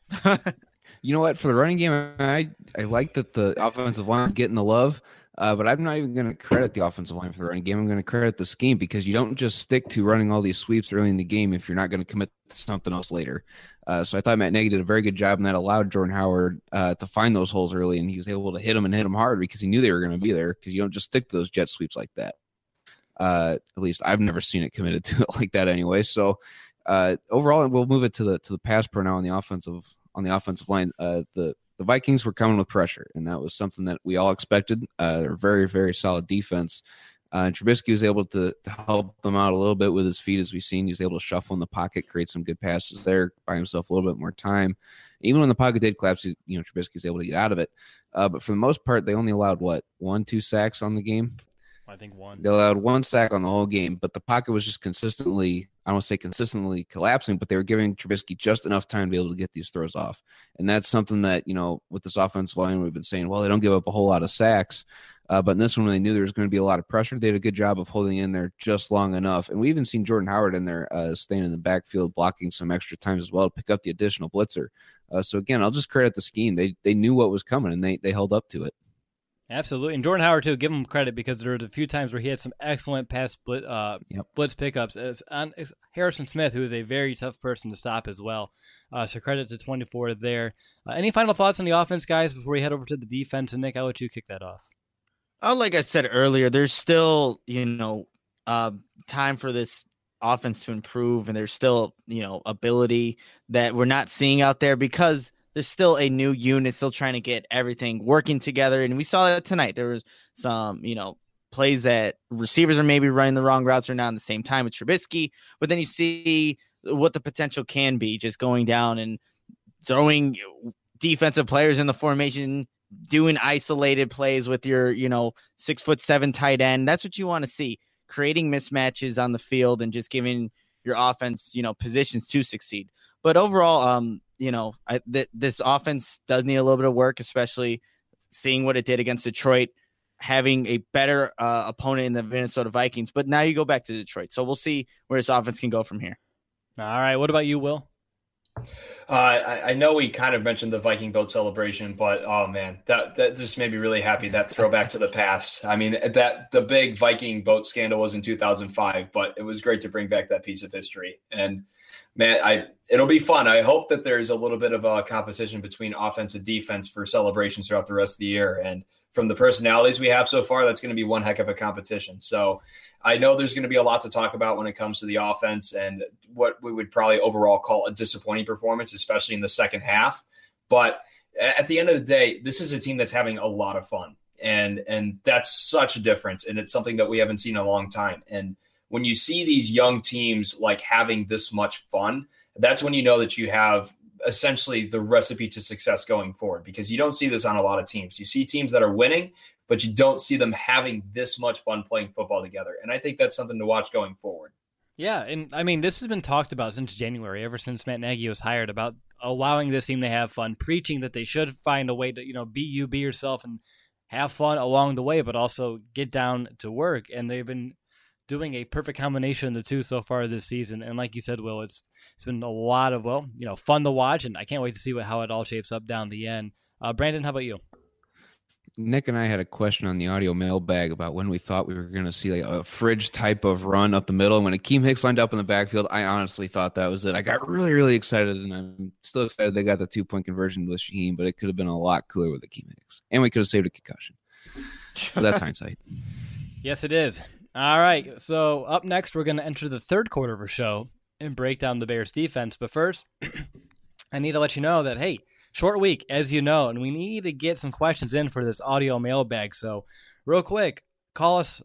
You know what? For the running game, I like that the offensive line is getting the love, but I'm not even going to credit the offensive line for the running game. I'm going to credit the scheme, because you don't just stick to running all these sweeps early in the game if you're not going to commit to something else later. So I thought Matt Nagy did a very good job, and that allowed Jordan Howard to find those holes early, and he was able to hit them hard because he knew they were going to be there, because you don't just stick to those jet sweeps like that. At least I've never seen it committed to it like that anyway. So overall, we'll move it to the pass pro now on the offensive line. The Vikings were coming with pressure, and that was something that we all expected. They're very, very solid defense. And Trubisky was able to help them out a little bit with his feet, as we've seen. He was able to shuffle in the pocket, create some good passes there, buy himself a little bit more time. Even when the pocket did collapse, you know, Trubisky was able to get out of it. But for the most part, they only allowed 1-2 sacks on the game. I think one. They allowed 1 sack on the whole game, but the pocket was just consistently, I don't want to say consistently collapsing, but they were giving Trubisky just enough time to be able to get these throws off. And that's something that, with this offensive line, we've been saying, well, they don't give up a whole lot of sacks. But in this one, when they knew there was going to be a lot of pressure, they did a good job of holding in there just long enough. And we even seen Jordan Howard in there staying in the backfield, blocking some extra times as well to pick up the additional blitzer. So again, I'll just credit the scheme. They knew what was coming, and they held up to it. Absolutely. And Jordan Howard, too, give him credit because there was a few times where he had some excellent pass blitz pickups. On Harrison Smith, who is a very tough person to stop as well. So credit to 24 there. Any final thoughts on the offense, guys, before we head over to the defense? And Nick, I'll let you kick that off. Like I said earlier, there's still, time for this offense to improve, and there's still, ability that we're not seeing out there because there's still a new unit still trying to get everything working together. And we saw that tonight. There was some, plays that receivers are maybe running the wrong routes or not at the same time with Trubisky, but then you see what the potential can be just going down and throwing defensive players in the formation, doing isolated plays with your, 6'7" tight end. That's what you want to see, creating mismatches on the field and just giving your offense, positions to succeed. But overall, this offense does need a little bit of work, especially seeing what it did against Detroit, having a better opponent in the Minnesota Vikings. But now you go back to Detroit. So we'll see where this offense can go from here. All right. What about you, Will? I know we kind of mentioned the Viking boat celebration, but oh man, that just made me really happy. That throwback to the past. I mean, the big Viking boat scandal was in 2005, but it was great to bring back that piece of history. And man, it'll be fun. I hope that there's a little bit of a competition between offense and defense for celebrations throughout the rest of the year. And from the personalities we have so far, that's going to be one heck of a competition. So I know there's going to be a lot to talk about when it comes to the offense and what we would probably overall call a disappointing performance, especially in the second half. But at the end of the day, this is a team that's having a lot of fun. And that's such a difference. And it's something that we haven't seen in a long time. And when you see these young teams like having this much fun, that's when you know that you have essentially the recipe to success going forward, because you don't see this on a lot of teams. You see teams that are winning, but you don't see them having this much fun playing football together. And I think that's something to watch going forward. Yeah, and I mean, this has been talked about since January, ever since Matt Nagy was hired, about allowing this team to have fun, preaching that they should find a way to, be yourself and have fun along the way, but also get down to work. And they've been doing a perfect combination of the two so far this season. And like you said, Will, it's been a lot of, fun to watch, and I can't wait to see how it all shapes up down the end. Brandon, how about you? Nick and I had a question on the audio mailbag about when we thought we were going to see like a fridge type of run up the middle. And when Akeem Hicks lined up in the backfield, I honestly thought that was it. I got really, really excited, and I'm still excited they got the 2-point conversion with Shaheem, but it could have been a lot cooler with Akeem Hicks. And we could have saved a concussion. But that's hindsight. Yes, it is. All right, so up next, we're going to enter the third quarter of our show and break down the Bears defense. But first, I need to let you know that, hey, short week, as you know, and we need to get some questions in for this audio mailbag. So real quick, call us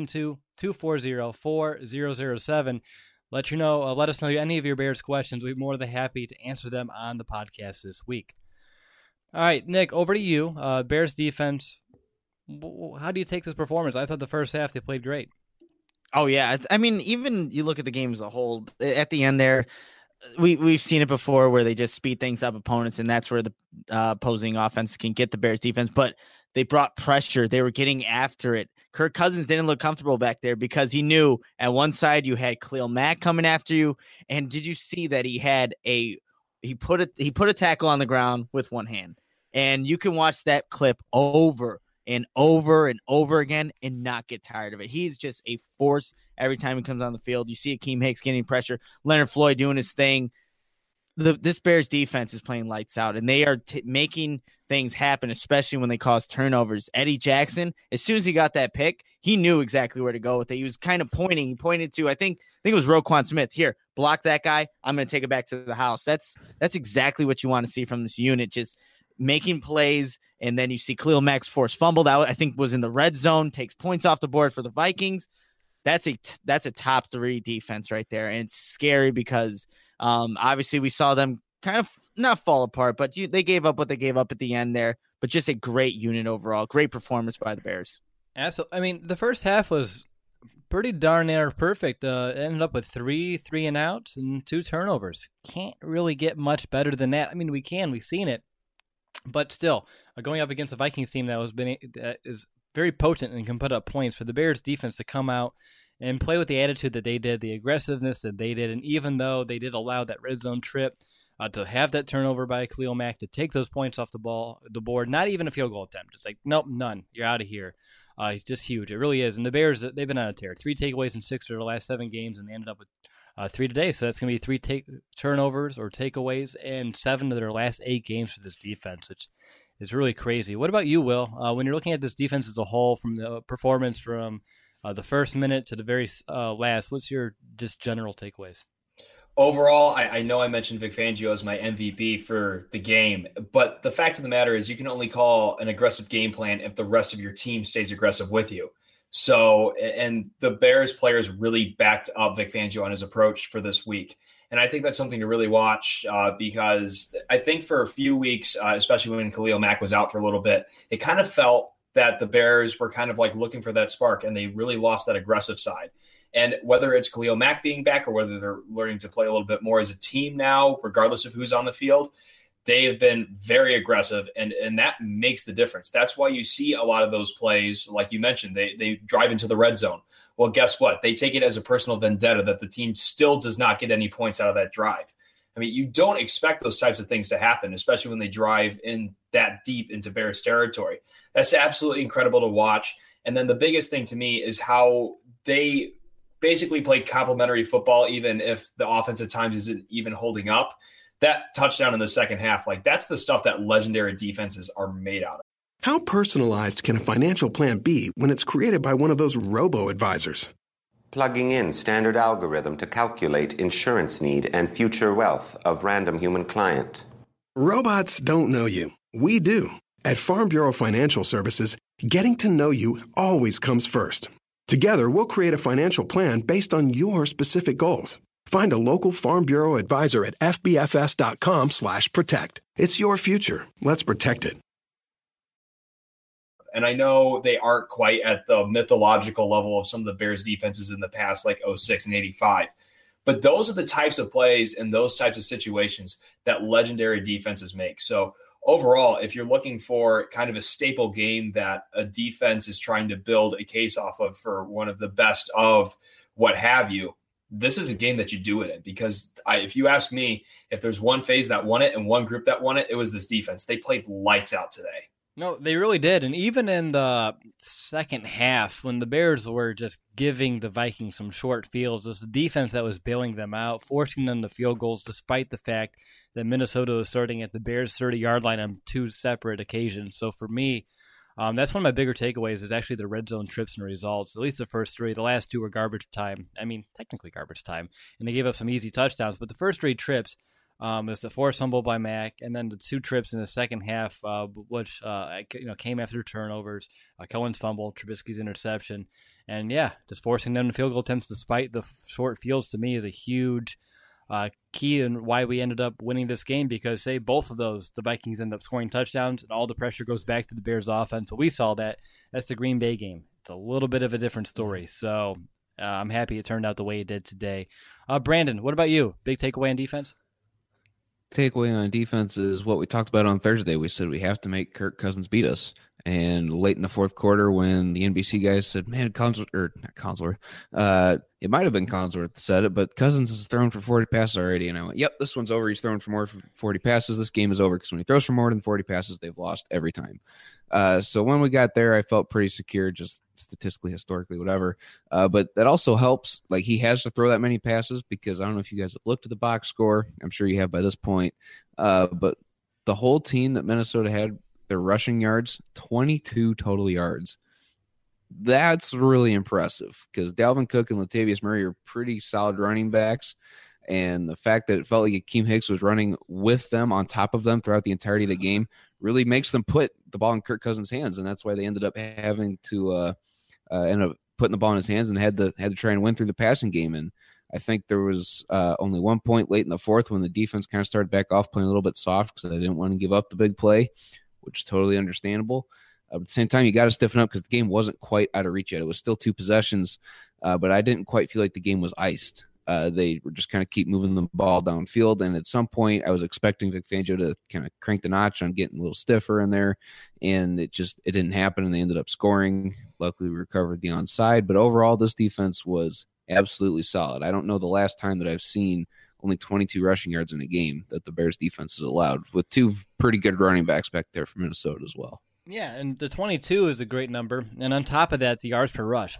872-240-4007. Let us know any of your Bears questions. We'd be more than happy to answer them on the podcast this week. All right, Nick, over to you. Bears defense, how do you take this performance? I thought the first half they played great. Oh, yeah. I mean, even you look at the game as a whole, at the end there, we've seen it before where they just speed things up opponents, and that's where the opposing offense can get the Bears defense. But they brought pressure. They were getting after it. Kirk Cousins didn't look comfortable back there because he knew at one side you had Khalil Mack coming after you. And did you see that he put a tackle on the ground with one hand? And you can watch that clip over and over and over again and not get tired of it. He's just a force every time he comes on the field. You see Akeem Hicks getting pressure, Leonard Floyd doing his thing. This Bears defense is playing lights out, and they are making things happen, especially when they cause turnovers. Eddie Jackson, as soon as he got that pick, he knew exactly where to go with it. He was kind of pointing. He pointed to, I think it was Roquan Smith. Here, block that guy. I'm going to take it back to the house. That's exactly what you want to see from this unit, just making plays. And then you see Khalil Mack's force fumbled out, I think was in the red zone, takes points off the board for the Vikings. That's a top 3 defense right there. And it's scary because obviously we saw them kind of not fall apart, but they gave up what they gave up at the end there. But just a great unit overall. Great performance by the Bears. Absolutely. I mean, the first half was pretty darn near perfect. Ended up with three and outs and 2 turnovers. Can't really get much better than that. I mean, we've seen it, but still, going up against a Vikings team that is very potent and can put up points, for the Bears defense to come out and play with the attitude that they did, the aggressiveness that they did, and even though they did allow that red zone trip, to have that turnover by Khalil Mack, to take those points off the board, not even a field goal attempt. It's like, nope, none. You're out of here. It's just huge. It really is. And the Bears, they've been on a tear. 3 takeaways in 6 of their last 7 games, and they ended up with 3 today. So that's going to be 3 turnovers or takeaways and 7 of their last 8 games for this defense, which is really crazy. What about you, Will? When you're looking at this defense as a whole, from the performance from the first minute to the very last, what's your just general takeaways? Overall, I know I mentioned Vic Fangio as my MVP for the game, but the fact of the matter is you can only call an aggressive game plan if the rest of your team stays aggressive with you. So, and the Bears players really backed up Vic Fangio on his approach for this week. And I think that's something to really watch because I think for a few weeks, especially when Khalil Mack was out for a little bit, it kind of felt that the Bears were kind of like looking for that spark, and they really lost that aggressive side. And whether it's Khalil Mack being back or whether they're learning to play a little bit more as a team now, regardless of who's on the field, they have been very aggressive, and that makes the difference. That's why you see a lot of those plays, like you mentioned, they drive into the red zone. Well, guess what? They take it as a personal vendetta that the team still does not get any points out of that drive. I mean, you don't expect those types of things to happen, especially when they drive in that deep into Bears territory. That's absolutely incredible to watch. And then the biggest thing to me is how they basically play complementary football, even if the offense at times isn't even holding up. That touchdown in the second half, like that's the stuff that legendary defenses are made out of. How personalized can a financial plan be when it's created by one of those robo-advisors? Plugging in standard algorithm to calculate insurance need and future wealth of random human client. Robots don't know you. We do. At Farm Bureau Financial Services, getting to know you always comes first. Together, we'll create a financial plan based on your specific goals. Find a local Farm Bureau advisor at fbfs.com/protect. It's your future. Let's protect it. And I know they aren't quite at the mythological level of some of the Bears defenses in the past, like 06 and 85. But those are the types of plays and those types of situations that legendary defenses make. So overall, if you're looking for kind of a staple game that a defense is trying to build a case off of for one of the best of what have you, this is a game that you do it in. Because if you ask me, if there's one phase that won it and one group that won it, it was this defense. They played lights out today. No, they really did. And even in the second half, when the Bears were just giving the Vikings some short fields, it was the defense that was bailing them out, forcing them to field goals, despite the fact that Minnesota was starting at the Bears' 30-yard line on 2 separate occasions. So for me, that's one of my bigger takeaways is actually the red zone trips and results. At least the first 3. The last 2 were garbage time. I mean, technically garbage time. And they gave up some easy touchdowns. But the first 3 trips, is the forced fumble by Mack, and then the 2 trips in the second half, which came after turnovers, Cohen's fumble, Trubisky's interception, and just forcing them to field goal attempts despite the short fields to me is a huge key in why we ended up winning this game. Because say both of those, the Vikings end up scoring touchdowns, and all the pressure goes back to the Bears' offense. But we saw that's the Green Bay game. It's a little bit of a different story. So I'm happy it turned out the way it did today. Brandon, what about you? Big takeaway on defense? Takeaway on defense is what we talked about on Thursday. We said we have to make Kirk Cousins beat us. And late in the fourth quarter, when the NBC guys said, man, it might have been Collinsworth said it, but Cousins has thrown for 40 passes already. And I went, yep, this one's over. He's thrown for more than 40 passes. This game is over because when he throws for more than 40 passes, they've lost every time. So when we got there, I felt pretty secure, just statistically, historically, whatever. But that also helps. Like, he has to throw that many passes because I don't know if you guys have looked at the box score. I'm sure you have by this point. But the whole team that Minnesota had, their rushing yards, 22 total yards. That's really impressive because Dalvin Cook and Latavius Murray are pretty solid running backs. And the fact that it felt like Akeem Hicks was running with them, on top of them throughout the entirety of the game, really makes them put the ball in Kirk Cousins' hands. And that's why they ended up having to end up putting the ball in his hands and had to try and win through the passing game. And I think there was only 1 point late in the fourth when the defense kind of started back off, playing a little bit soft because they didn't want to give up the big play, which is totally understandable. At the same time, you got to stiffen up because the game wasn't quite out of reach yet. It was still 2 possessions, but I didn't quite feel like the game was iced. They were just kind of keep moving the ball downfield, and at some point, I was expecting Vic Fangio to kind of crank the notch on getting a little stiffer in there, and it didn't happen, and they ended up scoring. Luckily, we recovered the onside, but overall, this defense was absolutely solid. I don't know the last time that I've seen only 22 rushing yards in a game that the Bears defense has allowed, with 2 pretty good running backs back there from Minnesota as well. Yeah, and the 22 is a great number. And on top of that, the yards per rush,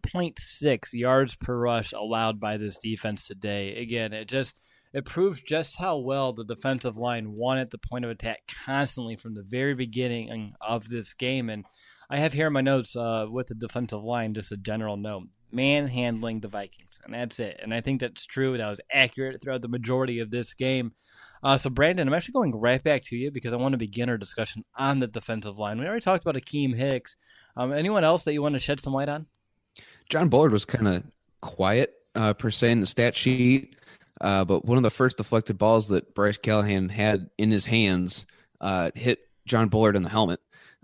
1.6 yards per rush allowed by this defense today. Again, it proves just how well the defensive line won at the point of attack constantly from the very beginning of this game. And I have here in my notes with the defensive line just a general note. Manhandling the Vikings, and that's it. And I think that's true. That was accurate throughout the majority of this game. So, Brandon, I'm actually going right back to you because I want to begin our discussion on the defensive line. We already talked about Akeem Hicks. Anyone else that you want to shed some light on? John Bullard was kind of quiet, per se, in the stat sheet, but one of the first deflected balls that Bryce Callahan had in his hands hit John Bullard in the helmet.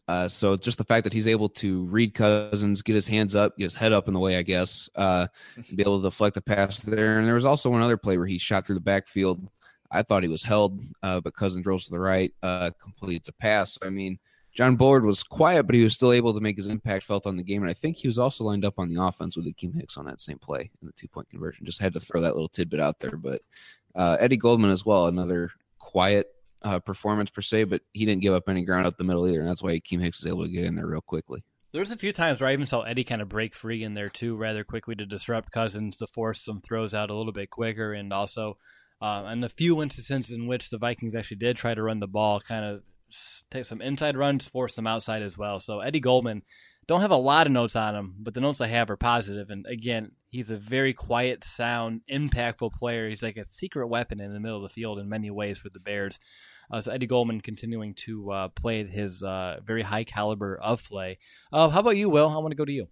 So just the fact that he's able to read Cousins, get his hands up, get his head up in the way, I guess, be able to deflect the pass there. And there was also one other play where he shot through the backfield. I thought he was held, but Cousins rolls to the right, completes a pass. I mean, John Bullard was quiet, but he was still able to make his impact felt on the game. And I think he was also lined up on the offense with Akeem Hicks on that same play in the 2-point conversion. Just had to throw that little tidbit out there. But Eddie Goldman as well, another quiet performance per se, but he didn't give up any ground up the middle either, and that's why Akeem Hicks is able to get in there real quickly. There's a few times where I even saw Eddie kind of break free in there too, rather quickly to disrupt Cousins, to force some throws out a little bit quicker, and also and a few instances in which the Vikings actually did try to run the ball, kind of take some inside runs, force them outside as well. So Eddie Goldman, don't have a lot of notes on him, but the notes I have are positive. And again, he's a very quiet, sound, impactful player. He's like a secret weapon in the middle of the field in many ways for the Bears. So Eddie Goldman continuing to play his very high caliber of play. How about you, Will? I want to go to you.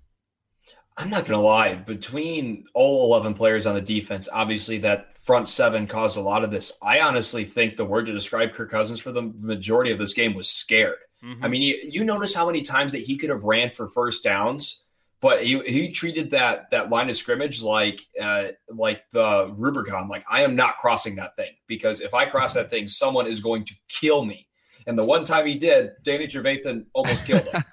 I'm not going to lie. Between all 11 players on the defense, obviously that front 7 caused a lot of this. I honestly think the word to describe Kirk Cousins for the majority of this game was scared. Mm-hmm. I mean, you notice how many times that he could have ran for first downs, but he treated that line of scrimmage like the Rubicon. Like, I am not crossing that thing, because if I cross that thing, someone is going to kill me. And the one time he did, Danny Trevathan almost killed him.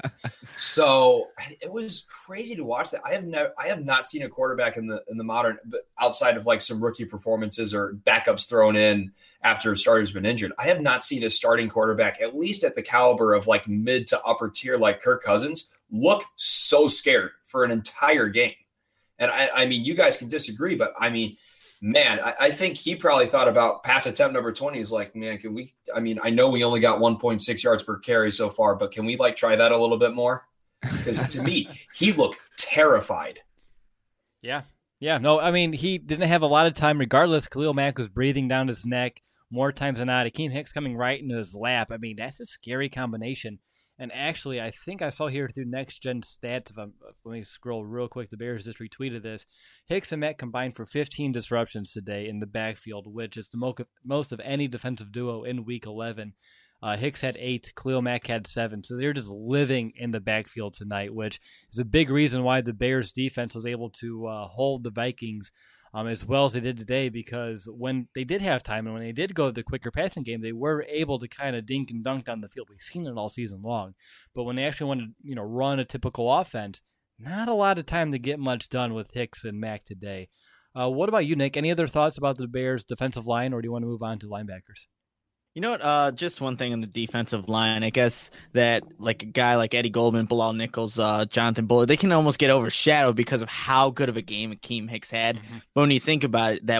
So it was crazy to watch that. I have not seen a quarterback in the modern, outside of like some rookie performances or backups thrown in after a starter's been injured. I have not seen a starting quarterback, at least at the caliber of like mid to upper tier like Kirk Cousins, look so scared for an entire game. And I mean, you guys can disagree, but I mean, man, I think he probably thought about pass attempt number 20. He's like, man, I know we only got 1.6 yards per carry so far, but can we like try that a little bit more? Because to me, he looked terrified. Yeah. No, I mean, he didn't have a lot of time regardless. Khalil Mack was breathing down his neck more times than not. Akeem Hicks coming right into his lap. I mean, that's a scary combination. And actually, I think I saw here through Next Gen Stats, let me scroll real quick, the Bears just retweeted this. Hicks and Mack combined for 15 disruptions today in the backfield, which is the most of any defensive duo in Week 11. Hicks had 8, Khalil Mack had 7. So they're just living in the backfield tonight, which is a big reason why the Bears defense was able to hold the Vikings as well as they did today, because when they did have time and when they did go to the quicker passing game, they were able to kind of dink and dunk down the field. We've seen it all season long. But when they actually wanted to, run a typical offense, not a lot of time to get much done with Hicks and Mack today. What about you, Nick? Any other thoughts about the Bears' defensive line, or do you want to move on to linebackers? You know what? Just one thing on the defensive line. I guess that like a guy like Eddie Goldman, Bilal Nichols, Jonathan Bullard, they can almost get overshadowed because of how good of a game Akeem Hicks had. Mm-hmm. But when you think about it, that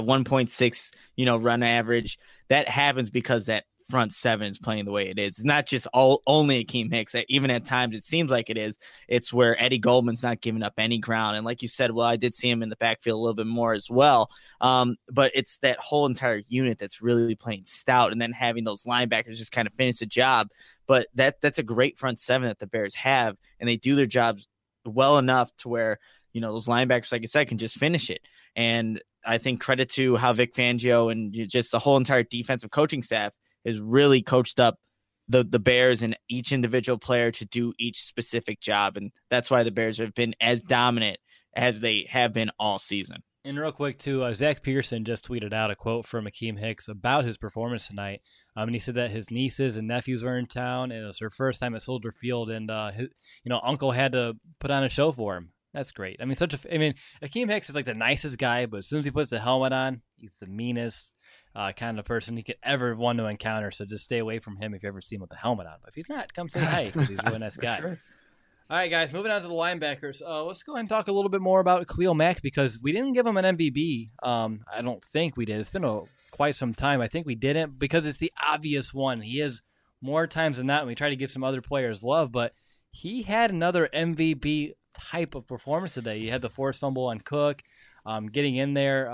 1.6, run average, that happens because that front 7 is playing the way it is. It's not just only Akeem Hicks. Even at times it seems like it is. It's where Eddie Goldman's not giving up any ground. And like you said, well, I did see him in the backfield a little bit more as well. But it's that whole entire unit that's really playing stout, and then having those linebackers just kind of finish the job. But that's a great front 7 that the Bears have, and they do their jobs well enough to where, those linebackers, like I said, can just finish it. And I think credit to how Vic Fangio and just the whole entire defensive coaching staff is really coached up the Bears and each individual player to do each specific job. And that's why the Bears have been as dominant as they have been all season. And real quick, too, Zach Pearson just tweeted out a quote from Akeem Hicks about his performance tonight. And he said that his nieces and nephews were in town. It was her first time at Soldier Field, and his, uncle had to put on a show for him. That's great. I mean, Akeem Hicks is like the nicest guy, but as soon as he puts the helmet on, he's the meanest kind of person he could ever want to encounter. So just stay away from him if you ever see him with the helmet on. But if he's not, come say hi, because he's a really nice guy. Sure. All right, guys, moving on to the linebackers. Let's go ahead and talk a little bit more about Khalil Mack, because we didn't give him an MVB. I don't think we did. It's been quite some time. I think we didn't, because it's the obvious one. He is more times than not, and we try to give some other players love, but he had another MVP type of performance today. He had the forced fumble on Cook, getting in there.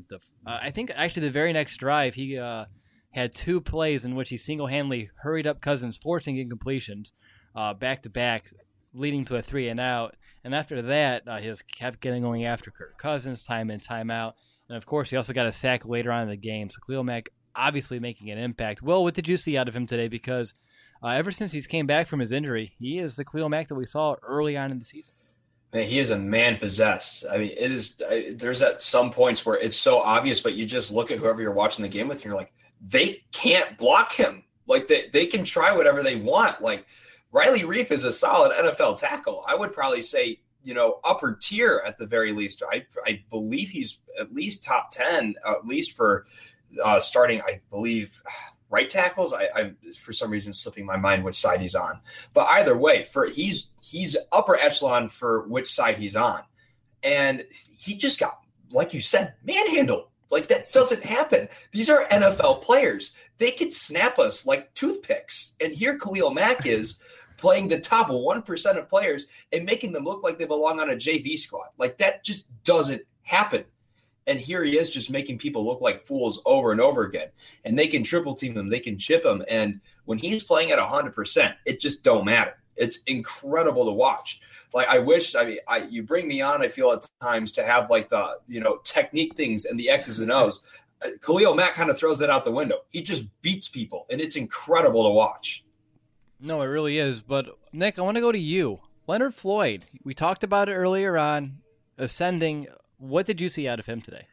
I think actually the very next drive, he had 2 plays in which he single-handedly hurried up Cousins, forcing incompletions back-to-back, leading to a 3-and-out. And after that, he just kept going after Kirk Cousins time in, time out. And, of course, he also got a sack later on in the game. So Khalil Mack obviously making an impact. Will, what did you see out of him today? Because ever since he's came back from his injury, he is the Khalil Mack that we saw early on in the season. Man, he is a man possessed. I mean, it is. There's at some points where it's so obvious, but you just look at whoever you're watching the game with, and you're like, they can't block him. Like they can try whatever they want. Like Riley Reef is a solid NFL tackle. I would probably say, upper tier at the very least. I believe he's at least top 10, at least for starting. I believe right tackles. I for some reason slipping my mind which side he's on. But either way, he's upper echelon for which side he's on. And he just got, like you said, manhandled. Like, that doesn't happen. These are NFL players. They could snap us like toothpicks. And here Khalil Mack is playing the top 1% of players and making them look like they belong on a JV squad. Like, that just doesn't happen. And here he is just making people look like fools over and over again. And they can triple team him. They can chip him. And when he's playing at 100%, it just don't matter. It's incredible to watch. Like, you bring me on, I feel at times, to have like the, technique things and the X's and O's. Khalil Mack kind of throws that out the window. He just beats people, and it's incredible to watch. No, it really is. But Nick, I want to go to you. Leonard Floyd, we talked about it earlier on, ascending. What did you see out of him today?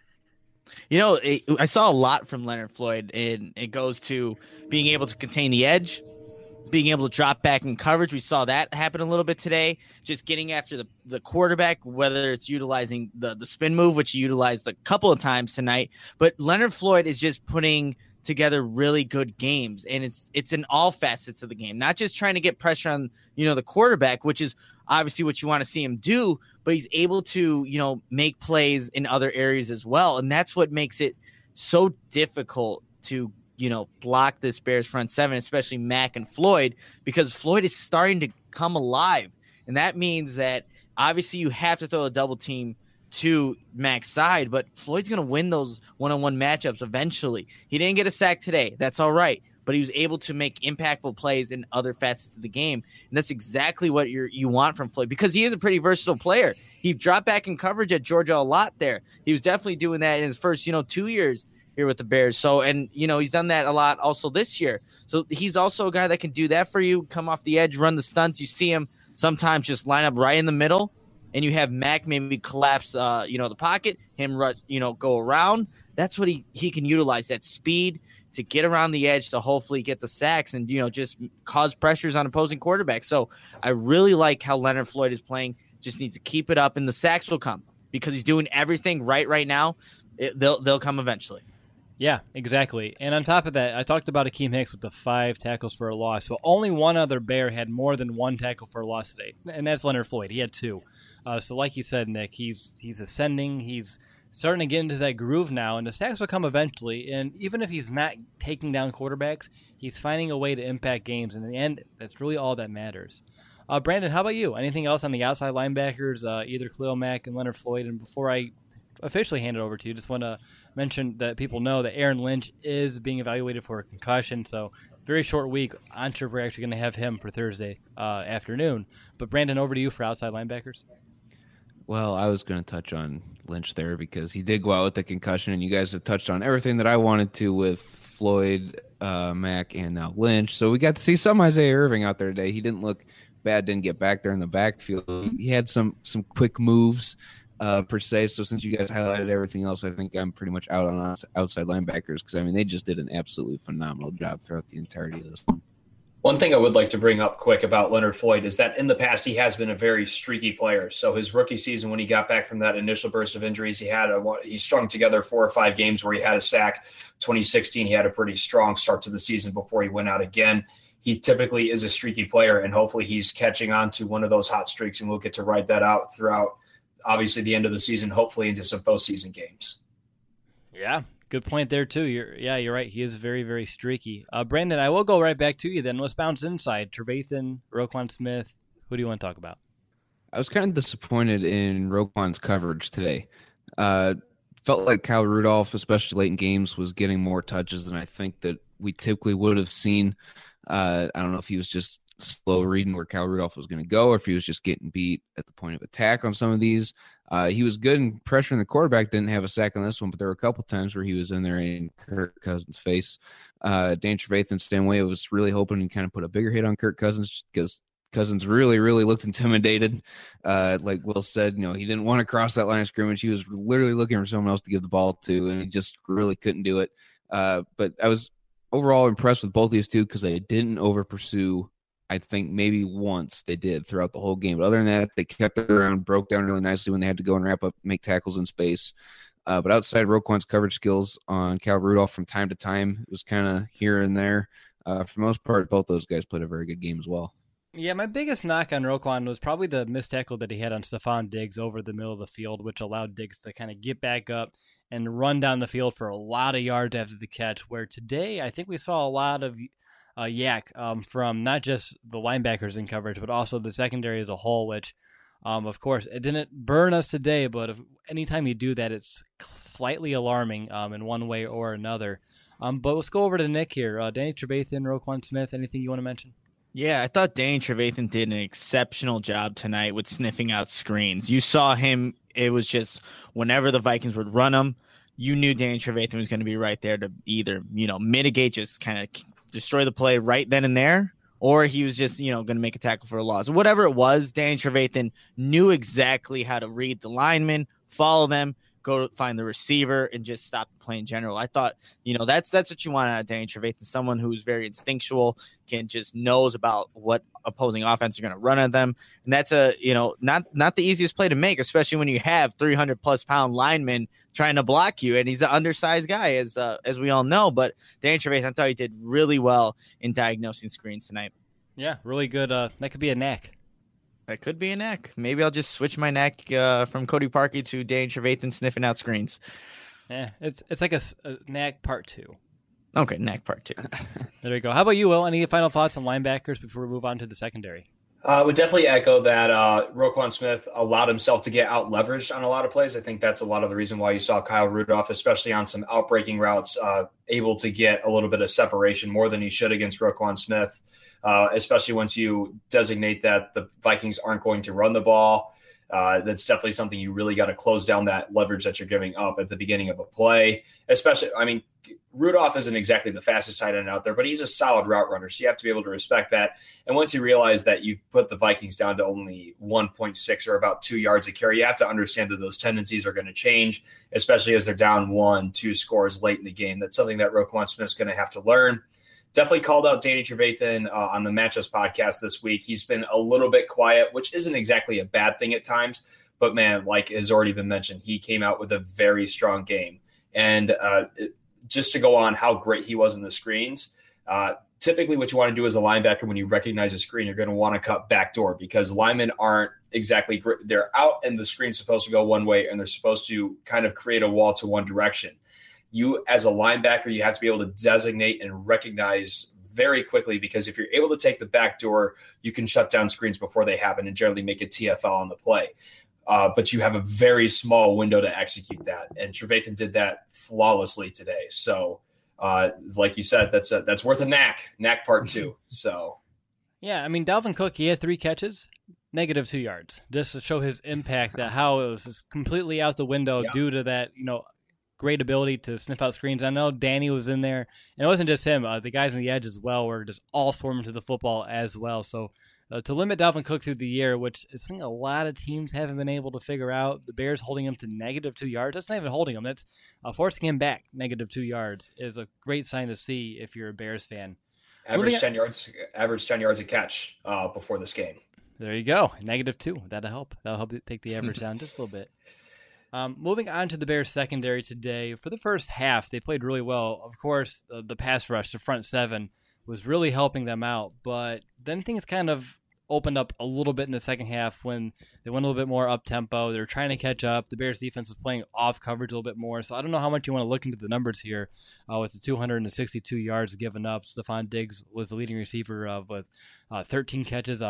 I saw a lot from Leonard Floyd, and it goes to being able to contain the edge, being able to drop back in coverage. We saw that happen a little bit today, just getting after the quarterback, whether it's utilizing the spin move, which he utilized a couple of times tonight. But Leonard Floyd is just putting together really good games, and it's in all facets of the game, not just trying to get pressure on the quarterback, which is obviously what you want to see him do, but he's able to make plays in other areas as well, and that's what makes it so difficult to block this Bears front seven, especially Mack and Floyd, because Floyd is starting to come alive, and that means that obviously you have to throw a double team to Mack's side, but Floyd's going to win those one-on-one matchups eventually. He didn't get a sack today. That's all right. But he was able to make impactful plays in other facets of the game. And that's exactly what you want from Floyd, because he is a pretty versatile player. He dropped back in coverage at Georgia a lot there. He was definitely doing that in his first, 2 years here with the Bears. So, and, he's done that a lot also this year. So he's also a guy that can do that for you, come off the edge, run the stunts. You see him sometimes just line up right in the middle, and you have Mack maybe collapse, the pocket, him rush, go around. That's what he can utilize, that speed to get around the edge to hopefully get the sacks and, just cause pressures on opposing quarterbacks. So I really like how Leonard Floyd is playing. Just needs to keep it up, and the sacks will come because he's doing everything right now. They'll come eventually. Yeah, exactly. And on top of that, I talked about Akeem Hicks with the 5 tackles for a loss. So only one other Bear had more than 1 tackle for a loss today, and that's Leonard Floyd. He had 2. So like you said, Nick, he's ascending. He's starting to get into that groove now, and the sacks will come eventually. And even if he's not taking down quarterbacks, he's finding a way to impact games. In the end, that's really all that matters. Brandon, how about you? Anything else on the outside linebackers, either Khalil Mack and Leonard Floyd? And before I officially hand it over to you, just want to mention that people know that Aaron Lynch is being evaluated for a concussion, so very short week. I'm not sure if we're actually going to have him for Thursday afternoon. But Brandon, over to you for outside linebackers. Well, I was going to touch on Lynch there because he did go out with the concussion, and you guys have touched on everything that I wanted to with Floyd. Mack, and now Lynch. So we got to see some Isaiah Irving out there today. He didn't look bad, didn't get back there in the backfield. He had some quick moves per se. So since you guys highlighted everything else, I think I'm pretty much out on outside linebackers because, I mean, they just did an absolutely phenomenal job throughout the entirety of this one. One thing I would like to bring up quick about Leonard Floyd is that in the past, he has been a very streaky player. So his rookie season, when he got back from that initial burst of injuries, he strung together 4 or 5 games where he had a sack. 2016, he had a pretty strong start to the season before he went out again. He typically is a streaky player, and hopefully he's catching on to one of those hot streaks, and we'll get to ride that out throughout, obviously, the end of the season, hopefully into some postseason games. Yeah. Good point there, too. You're right. He is very, very streaky. Brandon, I will go right back to you then. Let's bounce inside. Trevathan, Roquan Smith. Who do you want to talk about? I was kind of disappointed in Roquan's coverage today. Felt like Kyle Rudolph, especially late in games, was getting more touches than I think that we typically would have seen. I don't know if he was just slow reading where Kyle Rudolph was going to go or if he was just getting beat at the point of attack on some of these. He was good in pressuring the quarterback, didn't have a sack on this one, but there were a couple times where he was in there in Kirk Cousins' face. Dan Trevathan Stanway was really hoping to kind of put a bigger hit on Kirk Cousins because Cousins really, really looked intimidated. Like Will said, he didn't want to cross that line of scrimmage. He was literally looking for someone else to give the ball to, and he just really couldn't do it. But I was overall impressed with both these two because they didn't over pursue. I think maybe once they did throughout the whole game. But other than that, they kept it around, broke down really nicely when they had to go and wrap up, make tackles in space. But outside Roquan's coverage skills on Kyle Rudolph from time to time, it was kind of here and there. For the most part, both those guys played a very good game as well. Yeah, my biggest knock on Roquan was probably the missed tackle that he had on Stephon Diggs over the middle of the field, which allowed Diggs to kind of get back up and run down the field for a lot of yards after the catch, where today I think we saw a lot of yak from not just the linebackers in coverage, but also the secondary as a whole, which, of course, it didn't burn us today, but anytime you do that, it's slightly alarming in one way or another. But let's go over to Nick here. Danny Trevathan, Roquan Smith, anything you want to mention? Yeah, I thought Danny Trevathan did an exceptional job tonight with sniffing out screens. You saw him. It was just whenever the Vikings would run him, you knew Danny Trevathan was going to be right there to either, mitigate, just kind of destroy the play right then and there, or he was just, going to make a tackle for a loss. Whatever it was, Danny Trevathan knew exactly how to read the linemen, follow them, go find the receiver, and just stop the play in general. I thought, that's what you want out of Danny Trevathan, someone who's very instinctual, just knows about what opposing offense are going to run at them. And that's not the easiest play to make, especially when you have 300+ pound linemen trying to block you. And he's an undersized guy, as we all know. But Danny Trevathan, I thought he did really well in diagnosing screens tonight. Yeah, really good. That could be a knack. That could be a knack. Maybe I'll just switch my knack from Cody Parkey to Danny Trevathan sniffing out screens. Yeah, it's like a knack part 2. Okay, knack part 2. There we go. How about you, Will? Any final thoughts on linebackers before we move on to the secondary? I would definitely echo that Roquan Smith allowed himself to get out-leveraged on a lot of plays. I think that's a lot of the reason why you saw Kyle Rudolph, especially on some out-breaking routes, able to get a little bit of separation more than he should against Roquan Smith, especially once you designate that the Vikings aren't going to run the ball. That's definitely something you really got to close down that leverage that you're giving up at the beginning of a play. Especially, Rudolph isn't exactly the fastest tight end out there, but he's a solid route runner, so you have to be able to respect that. And once you realize that you've put the Vikings down to only 1.6 or about 2 yards a carry, you have to understand that those tendencies are going to change, especially as they're down 1-2 scores late in the game. That's something that Roquan Smith's going to have to learn. Definitely called out Danny Trevathan on the Matchups podcast this week. He's been a little bit quiet, which isn't exactly a bad thing at times. But, man, like has already been mentioned, he came out with a very strong game. And just to go on how great he was in the screens, typically what you want to do as a linebacker when you recognize a screen, you're going to want to cut backdoor because linemen aren't exactly great. They're out and the screen's supposed to go one way and they're supposed to kind of create a wall to one direction. You, as a linebacker, you have to be able to designate and recognize very quickly because if you're able to take the back door, you can shut down screens before they happen and generally make a TFL on the play. But you have a very small window to execute that. And Trevathan did that flawlessly today. So, like you said, that's worth a knack part 2. So, yeah, Dalvin Cook, he had 3 catches, -2 yards, just to show his impact, that how it was just completely out the window due to that, great ability to sniff out screens. I know Danny was in there, and it wasn't just him. The guys on the edge as well were just all swarming to the football as well. So to limit Dalvin Cook through the year, which is something a lot of teams haven't been able to figure out, the Bears holding him to -2 yards. That's not even holding him. That's forcing him back -2 yards is a great sign to see if you're a Bears fan. Average 10 yards a catch before this game. There you go. -2. That'll help. That'll help take the average down just a little bit. Moving on to the Bears secondary today. For the first half, they played really well. Of course, the pass rush, the front seven, was really helping them out. But then things kind of opened up a little bit in the second half when they went a little bit more up-tempo. They were trying to catch up. The Bears defense was playing off coverage a little bit more. So I don't know how much you want to look into the numbers here with the 262 yards given up. Stephon Diggs was the leading receiver with 13 catches,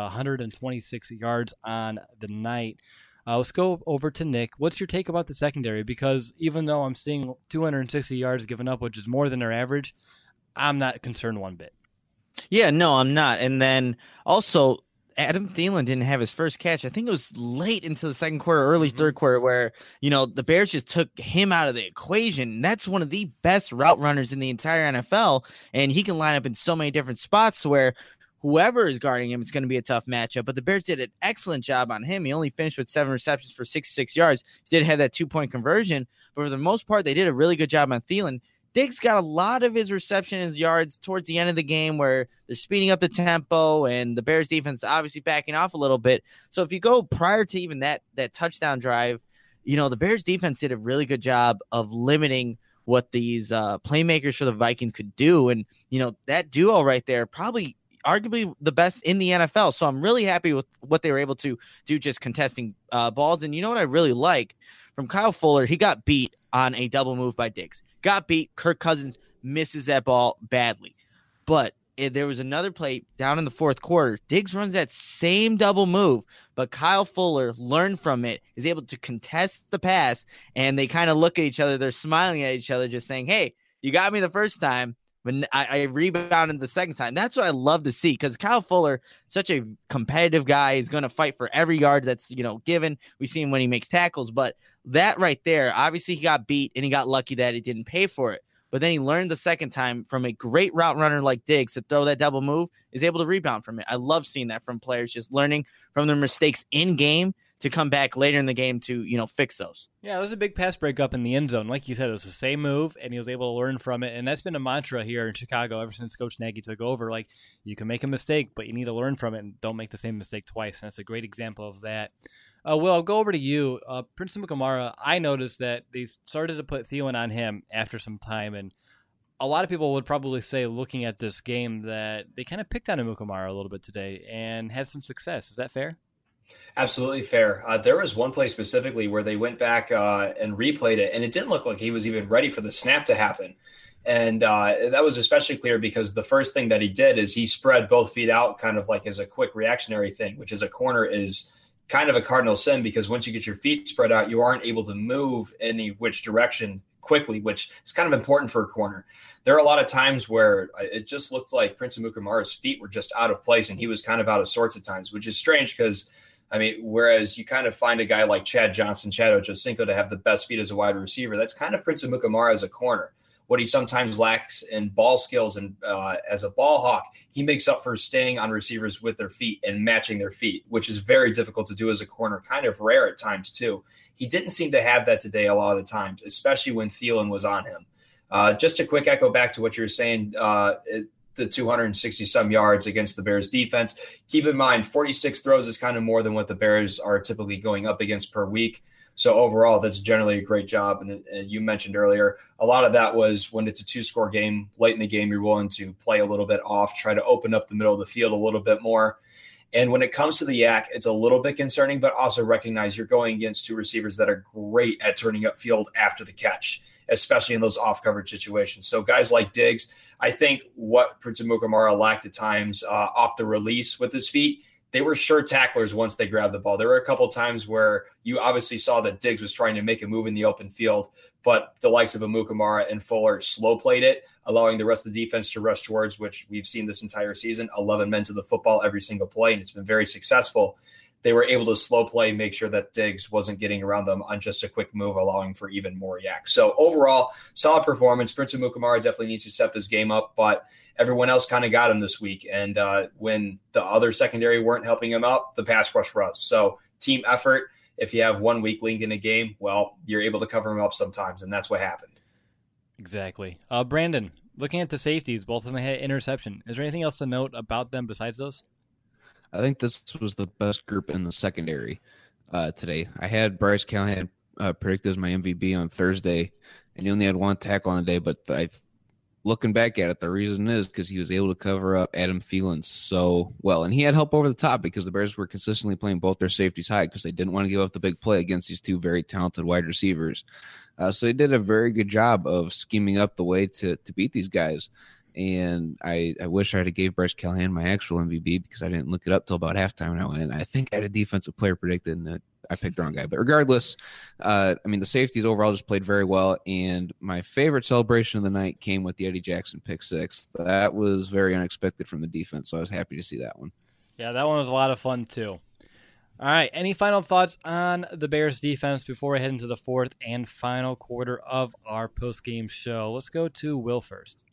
126 yards on the night. Let's go over to Nick. What's your take about the secondary? Because even though I'm seeing 260 yards given up, which is more than their average, I'm not concerned one bit. Yeah, no, I'm not. And then also, Adam Thielen didn't have his first catch. I think it was late into the second quarter, early third quarter, where, the Bears just took him out of the equation. That's one of the best route runners in the entire NFL, and he can line up in so many different spots where whoever is guarding him, it's going to be a tough matchup. But the Bears did an excellent job on him. He only finished with 7 receptions for 66 yards. He did have that 2-point conversion, but for the most part, they did a really good job on Thielen. Diggs got a lot of his reception and yards towards the end of the game where they're speeding up the tempo and the Bears defense obviously backing off a little bit. So if you go prior to even that touchdown drive, the Bears defense did a really good job of limiting what these playmakers for the Vikings could do. And, that duo right there, probably arguably the best in the NFL. So I'm really happy with what they were able to do just contesting balls. And you know what I really like from Kyle Fuller? He got beat on a double move by Diggs. Got beat. Kirk Cousins misses that ball badly. But there was another play down in the fourth quarter. Diggs runs that same double move, but Kyle Fuller learned from it, is able to contest the pass, and they kind of look at each other. They're smiling at each other, just saying, hey, you got me the first time, but I rebounded the second time. That's what I love to see, because Kyle Fuller, such a competitive guy, is going to fight for every yard that's, given. We see him when he makes tackles, but that right there, obviously he got beat and he got lucky that he didn't pay for it. But then he learned the second time from a great route runner like Diggs to throw that double move, is able to rebound from it. I love seeing that from players, just learning from their mistakes in game to come back later in the game to, fix those. Yeah, it was a big pass breakup in the end zone. Like you said, it was the same move, and he was able to learn from it. And that's been a mantra here in Chicago ever since Coach Nagy took over. Like, you can make a mistake, but you need to learn from it and don't make the same mistake twice. And that's a great example of that. Will, I'll go over to you. Prince Amukamara, I noticed that they started to put Thielen on him after some time, and a lot of people would probably say, looking at this game, that they kind of picked on Amukamara a little bit today and had some success. Is that fair? Absolutely fair. There was one play specifically where they went back and replayed it, and it didn't look like he was even ready for the snap to happen. And that was especially clear because the first thing that he did is he spread both feet out kind of like as a quick reactionary thing, which as a corner is kind of a cardinal sin, because once you get your feet spread out, you aren't able to move any which direction quickly, which is kind of important for a corner. There are a lot of times where it just looked like Prince Amukamara's feet were just out of place and he was kind of out of sorts at times, which is strange because, whereas you kind of find a guy like Chad Johnson, Chad Ochocinco to have the best feet as a wide receiver, that's kind of Prince Amukamara as a corner. What he sometimes lacks in ball skills and as a ball hawk, he makes up for staying on receivers with their feet and matching their feet, which is very difficult to do as a corner, kind of rare at times too. He didn't seem to have that today a lot of the times, especially when Thielen was on him. Just a quick echo back to what you were saying, the 260-some yards against the Bears defense. Keep in mind, 46 throws is kind of more than what the Bears are typically going up against per week. So overall, that's generally a great job. And you mentioned earlier, a lot of that was when it's a 2-score game, late in the game, you're willing to play a little bit off, try to open up the middle of the field a little bit more. And when it comes to the yak, it's a little bit concerning, but also recognize you're going against two receivers that are great at turning up field after the catch, especially in those off-coverage situations. So guys like Diggs, I think what Prince Amukamara lacked at times off the release with his feet, they were sure tacklers once they grabbed the ball. There were a couple times where you obviously saw that Diggs was trying to make a move in the open field, but the likes of Amukamara and Fuller slow played it, allowing the rest of the defense to rush towards, which we've seen this entire season, 11 men to the football every single play, and it's been very successful. they were able to slow play, make sure that Diggs wasn't getting around them on just a quick move, allowing for even more yak. So overall, solid performance. Prince Amukamara definitely needs to step his game up, but everyone else kind of got him this week. And when the other secondary weren't helping him out, the pass rush was. So team effort. If you have one weak link in a game, well, you're able to cover him up sometimes, and that's what happened. Exactly. Brandon, looking at the safeties, both of them had interception. Is there anything else to note about them besides those? I think this was the best group in the secondary today. I had Bryce Callahan predicted as my MVP on Thursday, and he only had one tackle on the day, but looking back at it, the reason is because he was able to cover up Adam Thielen so well. And he had help over the top because the Bears were consistently playing both their safeties high because they didn't want to give up the big play against these two very talented wide receivers. So they did a very good job of scheming up the way to beat these guys. And I wish I had gave Bryce Callahan my actual MVP because I didn't look it up till about halftime. And I think I had a defensive player predicted, and I picked the wrong guy. But regardless, the safeties overall just played very well. And my favorite celebration of the night came with the Eddie Jackson pick six. That was very unexpected from the defense, so I was happy to see that one. Yeah, that one was a lot of fun too. All right, any final thoughts on the Bears defense before we head into the fourth and final quarter of our post-game show? Let's go to Will first.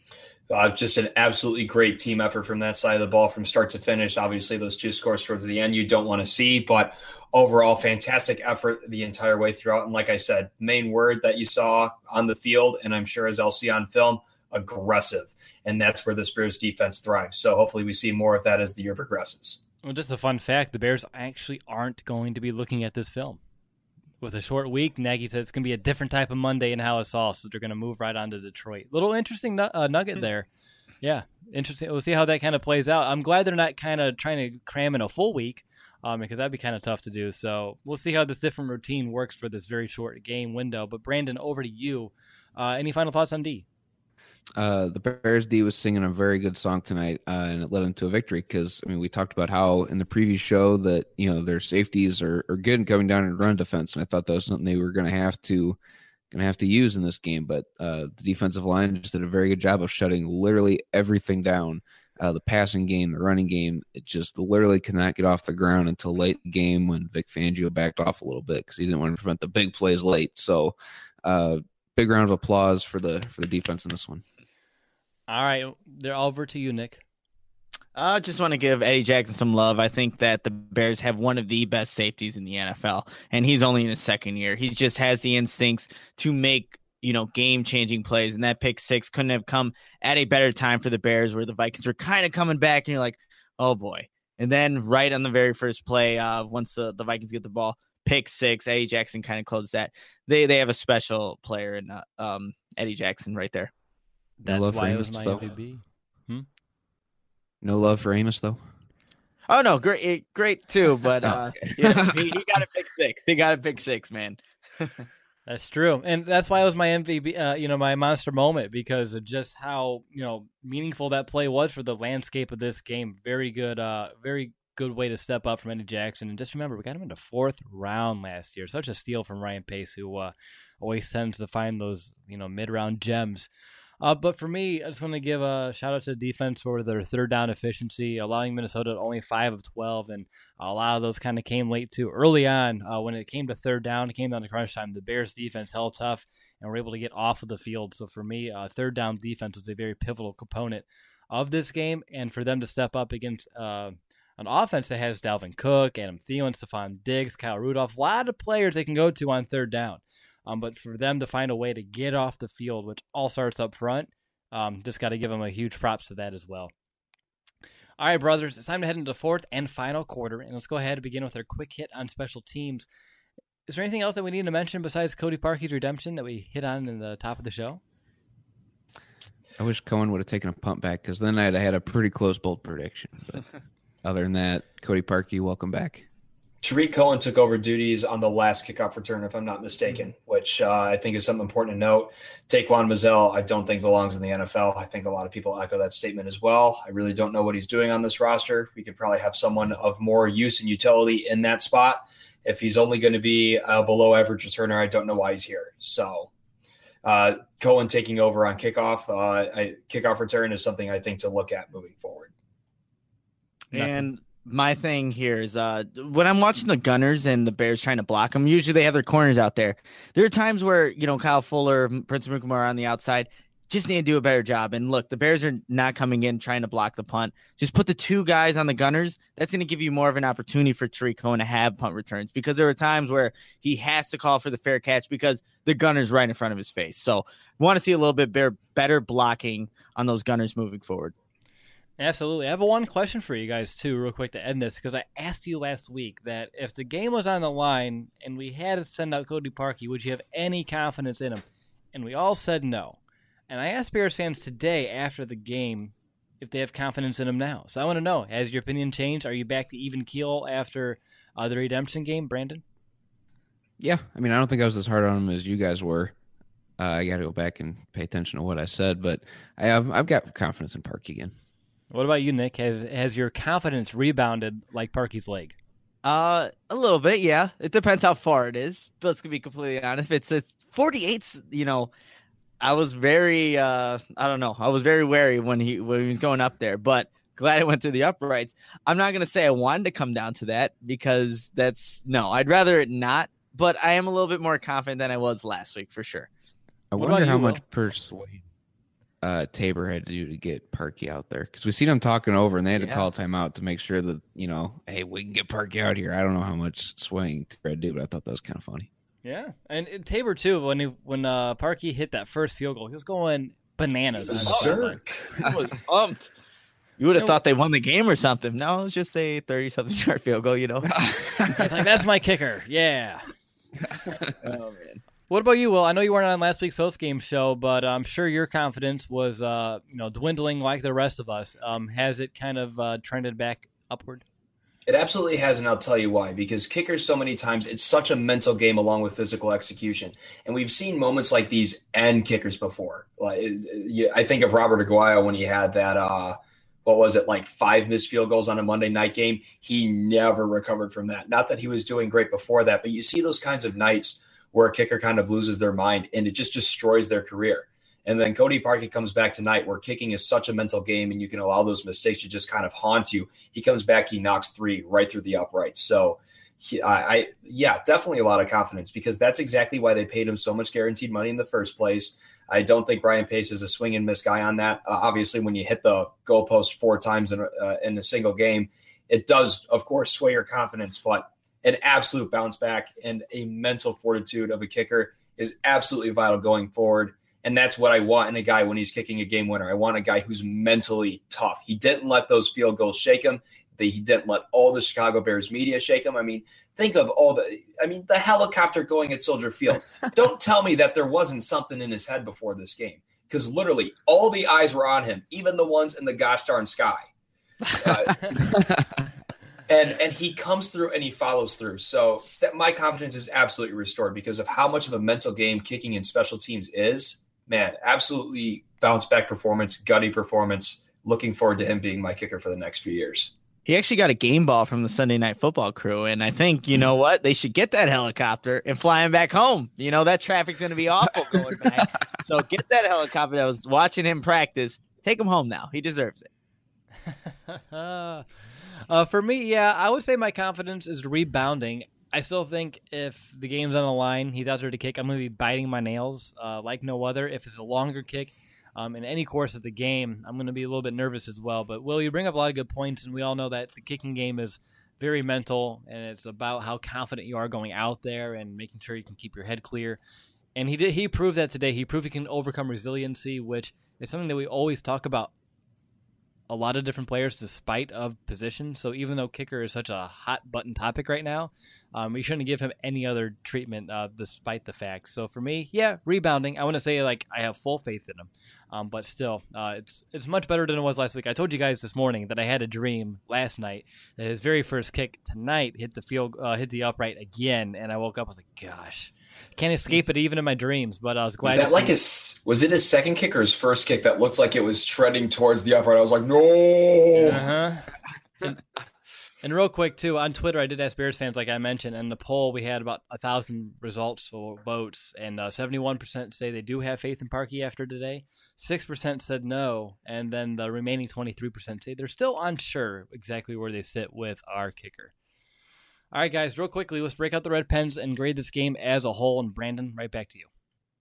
Just an absolutely great team effort from that side of the ball from start to finish. Obviously, those two scores towards the end you don't want to see, but overall, fantastic effort the entire way throughout. And like I said, main word that you saw on the field, and I'm sure as I'll see on film, aggressive. And that's where the Bears defense thrives. So hopefully we see more of that as the year progresses. Well, just a fun fact, the Bears actually aren't going to be looking at this film. With a short week, Nagy said it's going to be a different type of Monday in Halisaw, so they're going to move right on to Detroit. Little interesting nugget there. Yeah, interesting. We'll see how that kind of plays out. I'm glad they're not kind of trying to cram in a full week because that'd be kind of tough to do. So we'll see how this different routine works for this very short game window. But Brandon, over to you. Any final thoughts on D? The Bears D was singing a very good song tonight, and it led into a victory because, we talked about how in the previous show that, their safeties are good and coming down in run defense, and I thought that was something they were going to have to use in this game, but the defensive line just did a very good job of shutting literally everything down. The passing game, the running game, it just literally could not get off the ground until late in the game when Vic Fangio backed off a little bit because he didn't want to prevent the big plays late. So big round of applause for the defense in this one. All right, they're over to you, Nick. I just want to give Eddie Jackson some love. I think that the Bears have one of the best safeties in the NFL, and he's only in his second year. He just has the instincts to make, game-changing plays, and that pick six couldn't have come at a better time for the Bears where the Vikings were kind of coming back, and you're like, oh, boy. And then right on the very first play, once the Vikings get the ball, pick six, Eddie Jackson kind of closed that. They have a special player in Eddie Jackson right there. That's why it was my MVP. No love for Amos, though? Oh, no, great too, but he got a pick six. He got a pick six, man. That's true, and that's why it was my MVP, my monster moment, because of just how, meaningful that play was for the landscape of this game. Very good way to step up from Eddie Jackson. And just remember, we got him in the fourth round last year. Such a steal from Ryan Pace, who always tends to find those, mid-round gems. But for me, I just want to give a shout out to the defense for their third down efficiency, allowing Minnesota only 5 of 12. And a lot of those kind of came late too. Early on, when it came to third down, it came down to crunch time. The Bears defense held tough and were able to get off of the field. So for me, third down defense was a very pivotal component of this game. And for them to step up against an offense that has Dalvin Cook, Adam Thielen, Stephon Diggs, Kyle Rudolph, a lot of players they can go to on third down. But for them to find a way to get off the field, which all starts up front, just got to give them a huge props to that as well. All right, brothers, it's time to head into the fourth and final quarter, and let's go ahead and begin with our quick hit on special teams. Is there anything else that we need to mention besides Cody Parkey's redemption that we hit on in the top of the show? I wish Cohen would have taken a punt back because then I'd have had a pretty close bold prediction. But other than that, Cody Parkey, welcome back. Tariq Cohen took over duties on the last kickoff return, if I'm not mistaken, which I think is something important to note. Taquan Mizzell, I don't think belongs in the NFL. I think a lot of people echo that statement as well. I really don't know what he's doing on this roster. We could probably have someone of more use and utility in that spot. If he's only going to be a below average returner, I don't know why he's here. So Cohen taking over on kickoff return is something I think to look at moving forward. And my thing here is when I'm watching the Gunners and the Bears trying to block them, usually they have their corners out there. There are times where, Kyle Fuller, Prince Amukamara are on the outside, just need to do a better job. And look, the Bears are not coming in trying to block the punt. Just put the 2 guys on the Gunners. That's going to give you more of an opportunity for Tariq Cohen to have punt returns, because there are times where he has to call for the fair catch because the Gunners right in front of his face. So want to see a little bit better blocking on those Gunners moving forward. Absolutely. I have one question for you guys, too, real quick to end this, because I asked you last week that if the game was on the line and we had to send out Cody Parkey, would you have any confidence in him? And we all said no. And I asked Bears fans today after the game if they have confidence in him now. So I want to know, has your opinion changed? Are you back to even keel after the redemption game, Brandon? Yeah. I mean, I don't think I was as hard on him as you guys were. I got to go back and pay attention to what I said, but I've got confidence in Parkey again. What about you, Nick? Has your confidence rebounded like Parkey's leg? A little bit, yeah. It depends how far it is. Let's be completely honest. If it's 48's, I was very, I was very wary when he was going up there, but glad it went through the uprights. I'm not going to say I wanted to come down to that, because I'd rather it not, but I am a little bit more confident than I was last week for sure. I wonder how much persuade Tabor had to do to get Parkey out there, because we seen him talking over and they had to call timeout to make sure that, hey, we can get Parkey out here. I don't know how much swaying Tabor had to do, but I thought that was kind of funny. Yeah, and Tabor too. When Parkey hit that first field goal, he was going bananas. Berserk. I was pumped. You would have thought they won the game or something. No, it was just a 30-something yard field goal. It's like, that's my kicker. Yeah. Oh man. What about you, Will? I know you weren't on last week's post-game show, but I'm sure your confidence was dwindling like the rest of us. Has it kind of trended back upward? It absolutely has, and I'll tell you why. Because kickers, so many times, it's such a mental game along with physical execution. And we've seen moments like these end kickers before. I think of Robert Aguayo when he had that, 5 missed field goals on a Monday night game. He never recovered from that. Not that he was doing great before that, but you see those kinds of nights where a kicker kind of loses their mind and it just destroys their career. And then Cody Parkey comes back tonight where kicking is such a mental game and you can allow those mistakes to just kind of haunt you. He comes back, he knocks 3 right through the uprights. So, definitely a lot of confidence, because that's exactly why they paid him so much guaranteed money in the first place. I don't think Ryan Pace is a swing and miss guy on that. Obviously, when you hit the goalpost 4 times in a single game, it does, of course, sway your confidence, but an absolute bounce back and a mental fortitude of a kicker is absolutely vital going forward. And that's what I want in a guy when he's kicking a game winner. I want a guy who's mentally tough. He didn't let those field goals shake him. He didn't let all the Chicago Bears media shake him. I mean, think of the helicopter going at Soldier Field. Don't tell me that there wasn't something in his head before this game, because literally all the eyes were on him, even the ones in the gosh darn sky. And he comes through and he follows through. So that my confidence is absolutely restored because of how much of a mental game kicking and special teams is. Man, absolutely bounce back performance, gutty performance. Looking forward to him being my kicker for the next few years. He actually got a game ball from the Sunday Night Football crew, and I think, you know what? They should get that helicopter and fly him back home. That traffic's going to be awful going back. So get that helicopter. I was watching him practice. Take him home now. He deserves it. For me, I would say my confidence is rebounding. I still think if the game's on the line, he's out there to kick, I'm going to be biting my nails like no other. If it's a longer kick in any course of the game, I'm going to be a little bit nervous as well. But, Will, you bring up a lot of good points, and we all know that the kicking game is very mental, and it's about how confident you are going out there and making sure you can keep your head clear. And he proved that today. He proved he can overcome resiliency, which is something that we always talk about a lot of different players despite of position. So even though kicker is such a hot button topic right now, we shouldn't give him any other treatment despite the fact. So for me, rebounding. I want to say I have full faith in him, but still, it's much better than it was last week. I told you guys this morning that I had a dream last night that his very first kick tonight hit the upright again, and I woke up. I was like, gosh, can't escape it even in my dreams. But I was glad. Was it his second kick or his first kick that looked like it was treading towards the upright? I was like, no. And real quick, too, on Twitter, I did ask Bears fans, like I mentioned, and the poll, we had about 1,000 results or votes, and 71% say they do have faith in Parkey after today. 6% said no, and then the remaining 23% say they're still unsure exactly where they sit with our kicker. All right, guys, real quickly, let's break out the red pens and grade this game as a whole. And Brandon, right back to you.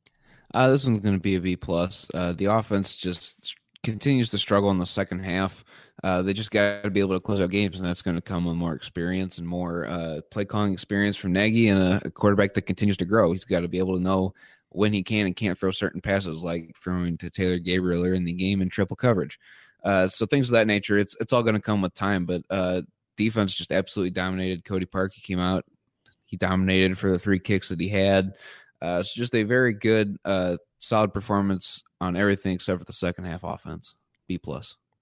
This one's going to be a B+. The offense just continues to struggle in the second half. They just got to be able to close out games, and that's going to come with more experience and more play calling experience from Nagy and a quarterback that continues to grow. He's got to be able to know when he can and can't throw certain passes, like throwing to Taylor Gabriel earlier in the game in triple coverage. So things of that nature, it's all going to come with time. But defense just absolutely dominated. Cody Parkey came out. He dominated for the 3 kicks that he had. So just a very good, solid performance on everything except for the second half offense. B+. All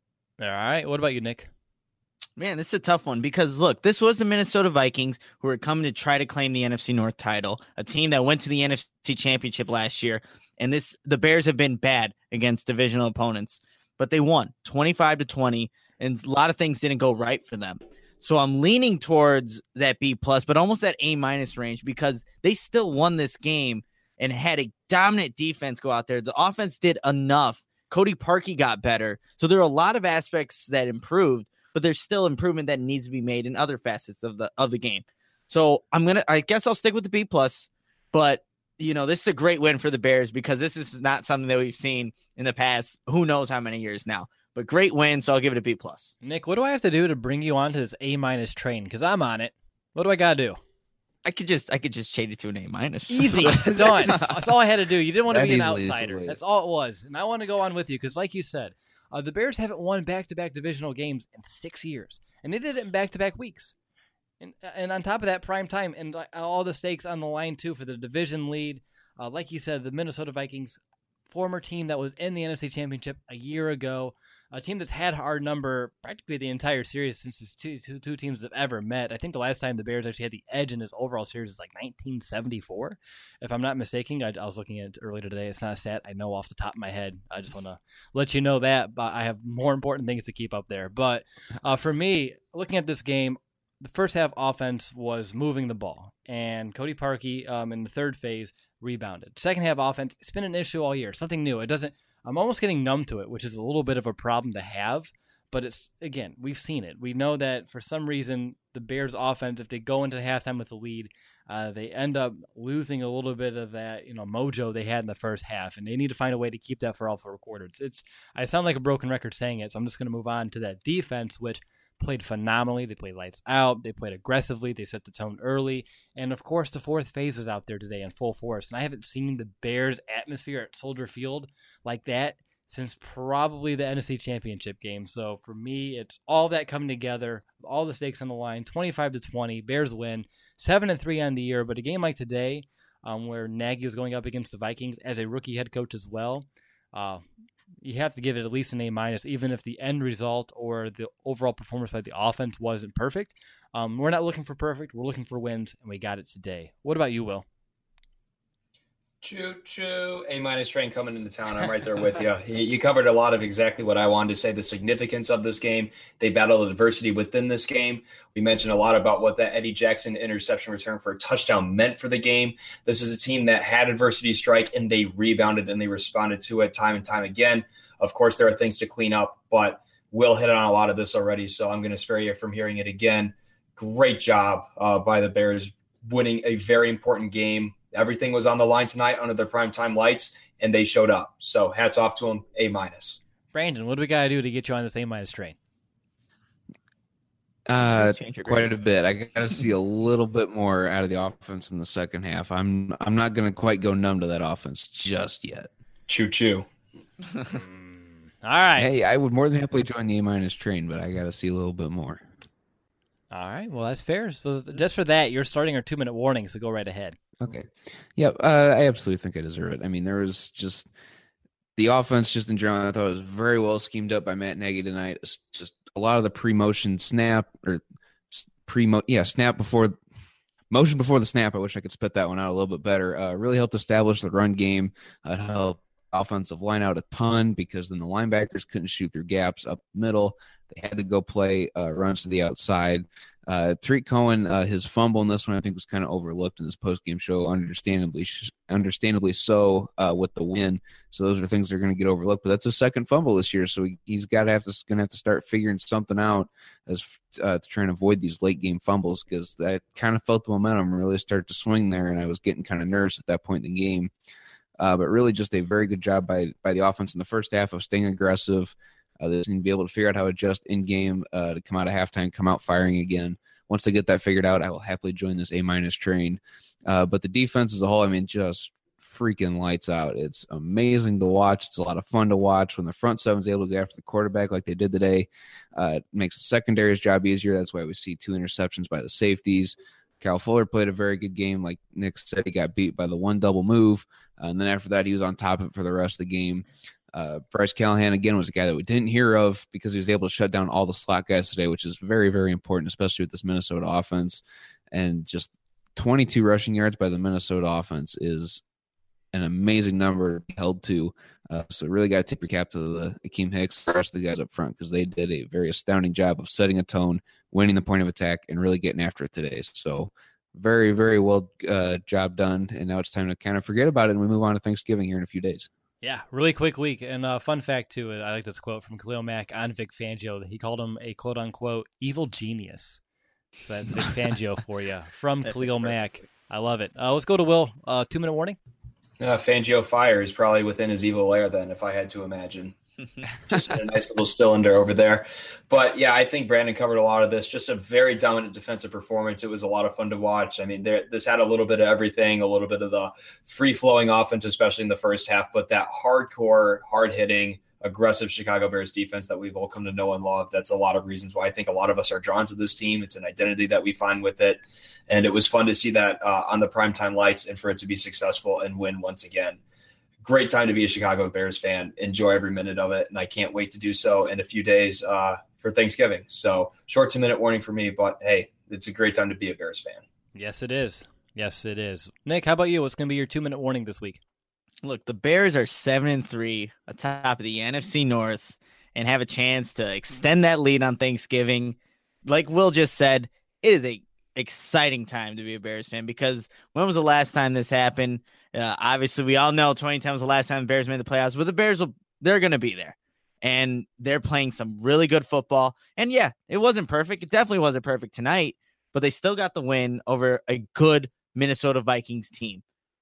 right. What about you, Nick? Man, this is a tough one because, look, this was the Minnesota Vikings who were coming to try to claim the NFC North title, a team that went to the NFC Championship last year. And the Bears have been bad against divisional opponents, but they won 25-20, and a lot of things didn't go right for them. So I'm leaning towards that B+, but almost that A- range because they still won this game and had a dominant defense go out there. The offense did enough. Cody Parkey got better. So there are a lot of aspects that improved, but there's still improvement that needs to be made in other facets of the game. So I guess I'll stick with the B+, but this is a great win for the Bears because this is not something that we've seen in the past, who knows how many years now. But great win, so I'll give it a B+. Nick, what do I have to do to bring you onto this A- train? Because I'm on it. What do I got to do? I could just change it to an A-. Easy. Done. That's all I had to do. You didn't want to be an easily, outsider. That's all it was. And I want to go on with you because, like you said, the Bears haven't won back-to-back divisional games in 6 years. And they did it in back-to-back weeks. And on top of that, prime time and all the stakes on the line, too, for the division lead. Like you said, the Minnesota Vikings, former team that was in the NFC Championship a year ago, a team that's had our number practically the entire series since these two teams have ever met. I think the last time the Bears actually had the edge in this overall series is like 1974, if I'm not mistaken. I was looking at it earlier today. It's not a stat I know off the top of my head. I just want to let you know that, but I have more important things to keep up there. But for me, looking at this game, the first half offense was moving the ball, and Cody Parkey in the third phase rebounded. Second half offense, it's been an issue all year, something new. I'm almost getting numb to it, which is a little bit of a problem to have, but it's, again, we've seen it. We know that for some reason, the Bears offense, if they go into halftime with the lead, they end up losing a little bit of that, mojo they had in the first half, and they need to find a way to keep that for all 4 quarters. I sound like a broken record saying it, so I'm just going to move on to that defense, which played phenomenally. They played lights out. They played aggressively. They set the tone early. And, of course, the fourth phase was out there today in full force. And I haven't seen the Bears atmosphere at Soldier Field like that since probably the NFC Championship game. So, for me, it's all that coming together, all the stakes on the line, 25-20. Bears win, 7-3 on the year. But a game like today, where Nagy is going up against the Vikings as a rookie head coach as well, you have to give it at least an A-, even if the end result or the overall performance by the offense wasn't perfect. We're not looking for perfect. We're looking for wins, and we got it today. What about you, Will? Choo-choo. A- train coming into town. I'm right there with you. You covered a lot of exactly what I wanted to say, the significance of this game. They battled adversity within this game. We mentioned a lot about what that Eddie Jackson interception return for a touchdown meant for the game. This is a team that had adversity strike, and they rebounded and they responded to it time and time again. Of course, there are things to clean up, but Will hit on a lot of this already, so I'm going to spare you from hearing it again. Great job by the Bears winning a very important game. Everything was on the line tonight under their primetime lights, and they showed up. So hats off to them, A-. Brandon, what do we got to do to get you on this A- train? Quite a bit. I got to see a little bit more out of the offense in the second half. I'm not going to quite go numb to that offense just yet. Choo-choo. All right. Hey, I would more than happily join the A- train, but I got to see a little bit more. All right. Well, that's fair. So just for that, you're starting our 2-minute warning, so go right ahead. Okay. Yeah, I absolutely think I deserve it. I mean, there was just the offense just in general, I thought it was very well schemed up by Matt Nagy tonight. It's just a lot of the pre-motion snap or snap before motion before the snap. I wish I could spit that one out a little bit better. Really helped establish the run game. It helped offensive line out a ton because then the linebackers couldn't shoot through gaps up the middle. They had to go play runs to the outside. Tariq Cohen, his fumble in this one, I think, was kind of overlooked in this post-game show, understandably so, with the win. So those are things that are going to get overlooked. But that's his second fumble this year, so he's going to have to start figuring something out as to try and avoid these late-game fumbles, because that kind of felt the momentum really start to swing there, and I was getting kind of nervous at that point in the game. But really just a very good job by the offense in the first half of staying aggressive. They're going to be able to figure out how to adjust in-game to come out of halftime, come out firing again. Once they get that figured out, I will happily join this A- train. But the defense as a whole, I mean, just freaking lights out. It's amazing to watch. It's a lot of fun to watch when the front seven is able to go after the quarterback like they did today. It makes the secondary's job easier. That's why we see 2 interceptions by the safeties. Kyle Fuller played a very good game. Like Nick said, he got beat by the one double move. And then after that, he was on top of it for the rest of the game. Bryce Callahan, again, was a guy that we didn't hear of because he was able to shut down all the slot guys today, which is very, very important, especially with this Minnesota offense. And just 22 rushing yards by the Minnesota offense is an amazing number to be held to. So really got to tip your cap to the Akeem Hicks, the rest of the guys up front, because they did a very astounding job of setting a tone, winning the point of attack, and really getting after it today. So very, very well job done. And now it's time to kind of forget about it, and we move on to Thanksgiving here in a few days. Yeah, really quick week. And fun fact, too, I like this quote from Khalil Mack on Vic Fangio. He called him a quote-unquote evil genius. So that's Vic Fangio for you from Khalil Mack. I love it. Let's go to Will. 2-minute warning. Fangio fire is probably within his evil lair then, if I had to imagine. Just a nice little cylinder over there. But, yeah, I think Brandon covered a lot of this. Just a very dominant defensive performance. It was a lot of fun to watch. I mean, this had a little bit of everything, a little bit of the free-flowing offense, especially in the first half, but that hardcore, hard-hitting, aggressive Chicago Bears defense that we've all come to know and love. That's a lot of reasons why I think a lot of us are drawn to this team. It's an identity that we find with it. And it was fun to see that on the primetime lights and for it to be successful and win once again. Great time to be a Chicago Bears fan. Enjoy every minute of it, and I can't wait to do so in a few days for Thanksgiving. So short 2-minute warning for me, but hey, it's a great time to be a Bears fan. Yes, it is. Yes, it is. Nick, how about you? What's going to be your 2-minute warning this week? Look, the Bears are 7-3 atop of the NFC North and have a chance to extend that lead on Thanksgiving. Like Will just said, it is a exciting time to be a Bears fan, because when was the last time this happened? Obviously, we all know 2010 was the last time the Bears made the playoffs, but the Bears, they're going to be there. And they're playing some really good football. And yeah, it wasn't perfect. It definitely wasn't perfect tonight, but they still got the win over a good Minnesota Vikings team,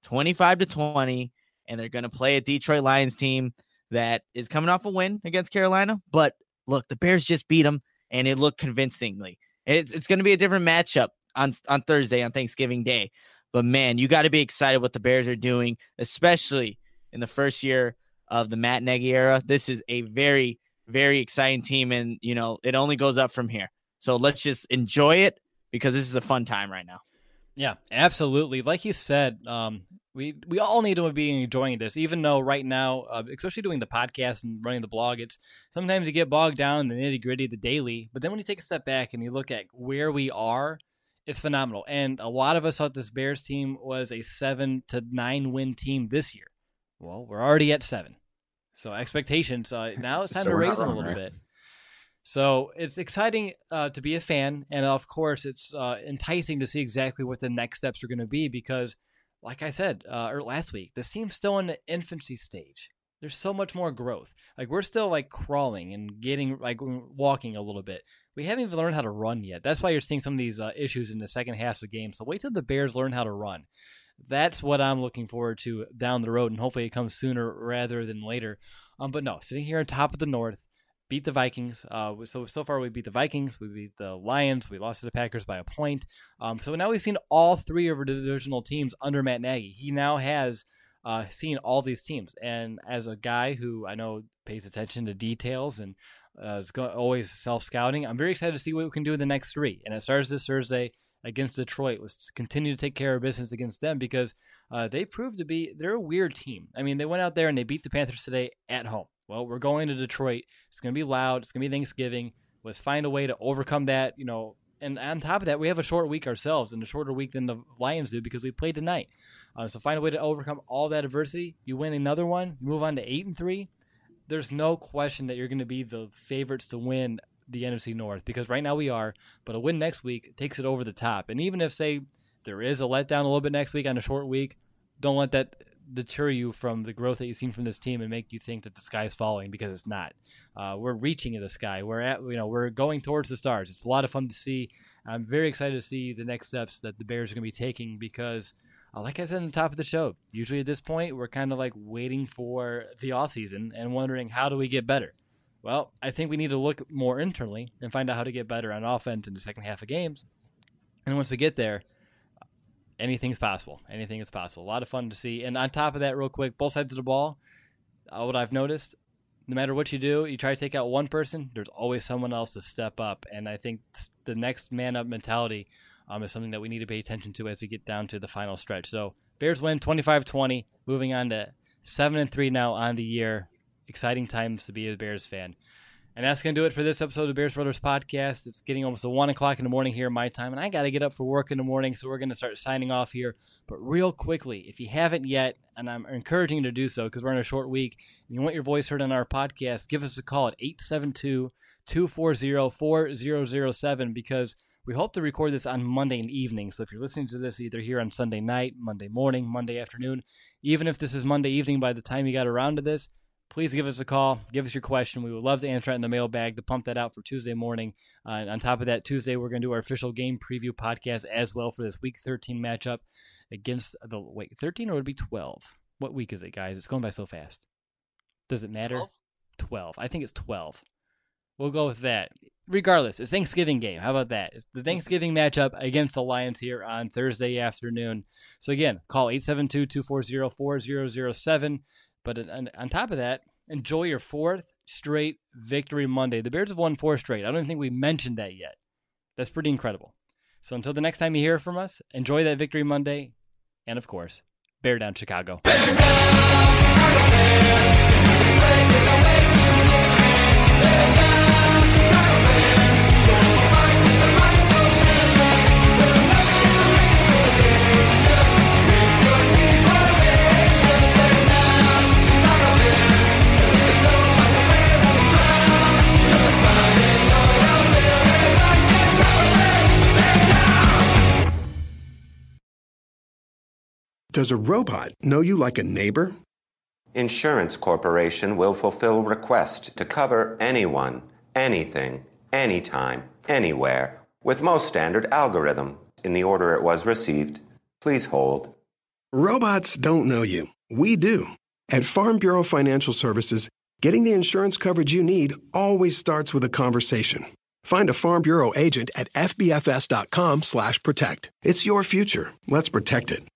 25-20. And they're going to play a Detroit Lions team that is coming off a win against Carolina. But look, the Bears just beat them, and it looked convincingly. It's going to be a different matchup on Thursday, on Thanksgiving Day. But, man, you got to be excited what the Bears are doing, especially in the first year of the Matt Nagy era. This is a very, very exciting team, and, you know, it only goes up from here. So let's just enjoy it, because this is a fun time right now. Yeah, absolutely. Like you said, we all need to be enjoying this, even though right now, especially doing the podcast and running the blog, it's sometimes you get bogged down in the nitty-gritty, the daily. But then when you take a step back and you look at where we are, it's phenomenal. And a lot of us thought this Bears team was a 7-9 win team this year. Well, we're already at 7. So expectations, now it's time to raise them a little bit. So it's exciting to be a fan. And of course, it's enticing to see exactly what the next steps are going to be, because like I said last week, this team's still in the infancy stage. There's so much more growth. Like, we're still like crawling and getting like walking a little bit. We haven't even learned how to run yet. That's why you're seeing some of these issues in the second half of the game. So wait till the Bears learn how to run. That's what I'm looking forward to down the road, and hopefully it comes sooner rather than later. But no, sitting here on top of the North, beat the Vikings. So far we beat the Vikings, we beat the Lions, we lost to the Packers by a point. So now we've seen all 3 of our divisional teams under Matt Nagy. He now has seen all these teams, and as a guy who I know pays attention to details and is always self-scouting, I'm very excited to see what we can do in the next 3. And it starts this Thursday against Detroit. Let's continue to take care of business against them, because they proved to be, they're a weird team. I mean, they went out there and they beat the Panthers today at home. Well, we're going to Detroit. It's going to be loud. It's going to be Thanksgiving. Let's find a way to overcome that, you know. And on top of that, we have a short week ourselves, and a shorter week than the Lions do, because we played tonight. So find a way to overcome all that adversity. You win another one. You move on to 8-3. There's no question that you're going to be the favorites to win the NFC North, because right now we are, but a win next week takes it over the top. And even if, say, there is a letdown a little bit next week on a short week, don't let that deter you from the growth that you've seen from this team and make you think that the sky is falling, because it's not. We're reaching the sky. We're going towards the stars. It's a lot of fun to see. I'm very excited to see the next steps that the Bears are going to be taking, because like I said on the top of the show, usually at this point we're kind of like waiting for the offseason and wondering, how do we get better? Well, I think we need to look more internally and find out how to get better on offense in the second half of games. And once we get there, anything's possible. Anything is possible. A lot of fun to see. And on top of that, real quick, both sides of the ball, what I've noticed, no matter what you do, you try to take out one person, there's always someone else to step up. And I think the next man-up mentality is something that we need to pay attention to as we get down to the final stretch. So Bears win 25-20, moving on to 7-3 now on the year. Exciting times to be a Bears fan. And that's going to do it for this episode of the Bears Brothers Podcast. It's getting almost 1 o'clock in the morning here in my time, and I got to get up for work in the morning, so we're going to start signing off here. But real quickly, if you haven't yet, and I'm encouraging you to do so because we're in a short week, and you want your voice heard on our podcast, give us a call at 872-240-4007, because we hope to record this on Monday evening. So if you're listening to this either here on Sunday night, Monday morning, Monday afternoon, even if this is Monday evening by the time you got around to this, please give us a call. Give us your question. We would love to answer it in the mailbag to pump that out for Tuesday morning. On top of that, Tuesday, we're going to do our official game preview podcast as well for this Week 13 matchup against 13 or would it be 12? What week is it, guys? It's going by so fast. Does it matter? 12. I think it's 12. We'll go with that. Regardless, it's Thanksgiving game. How about that? It's the Thanksgiving matchup against the Lions here on Thursday afternoon. So again, call 872-240-4007. But on top of that, enjoy your 4th straight victory Monday. The Bears have won 4 straight. I don't think we mentioned that yet. That's pretty incredible. So until the next time you hear from us, enjoy that victory Monday. And of course, Bear down Chicago. Bear down, Chicago Bears. Does a robot know you like a neighbor? Insurance Corporation will fulfill request to cover anyone, anything, anytime, anywhere, with most standard algorithm in the order it was received. Please hold. Robots don't know you. We do. At Farm Bureau Financial Services, getting the insurance coverage you need always starts with a conversation. Find a Farm Bureau agent at fbfs.com/protect. It's your future. Let's protect it.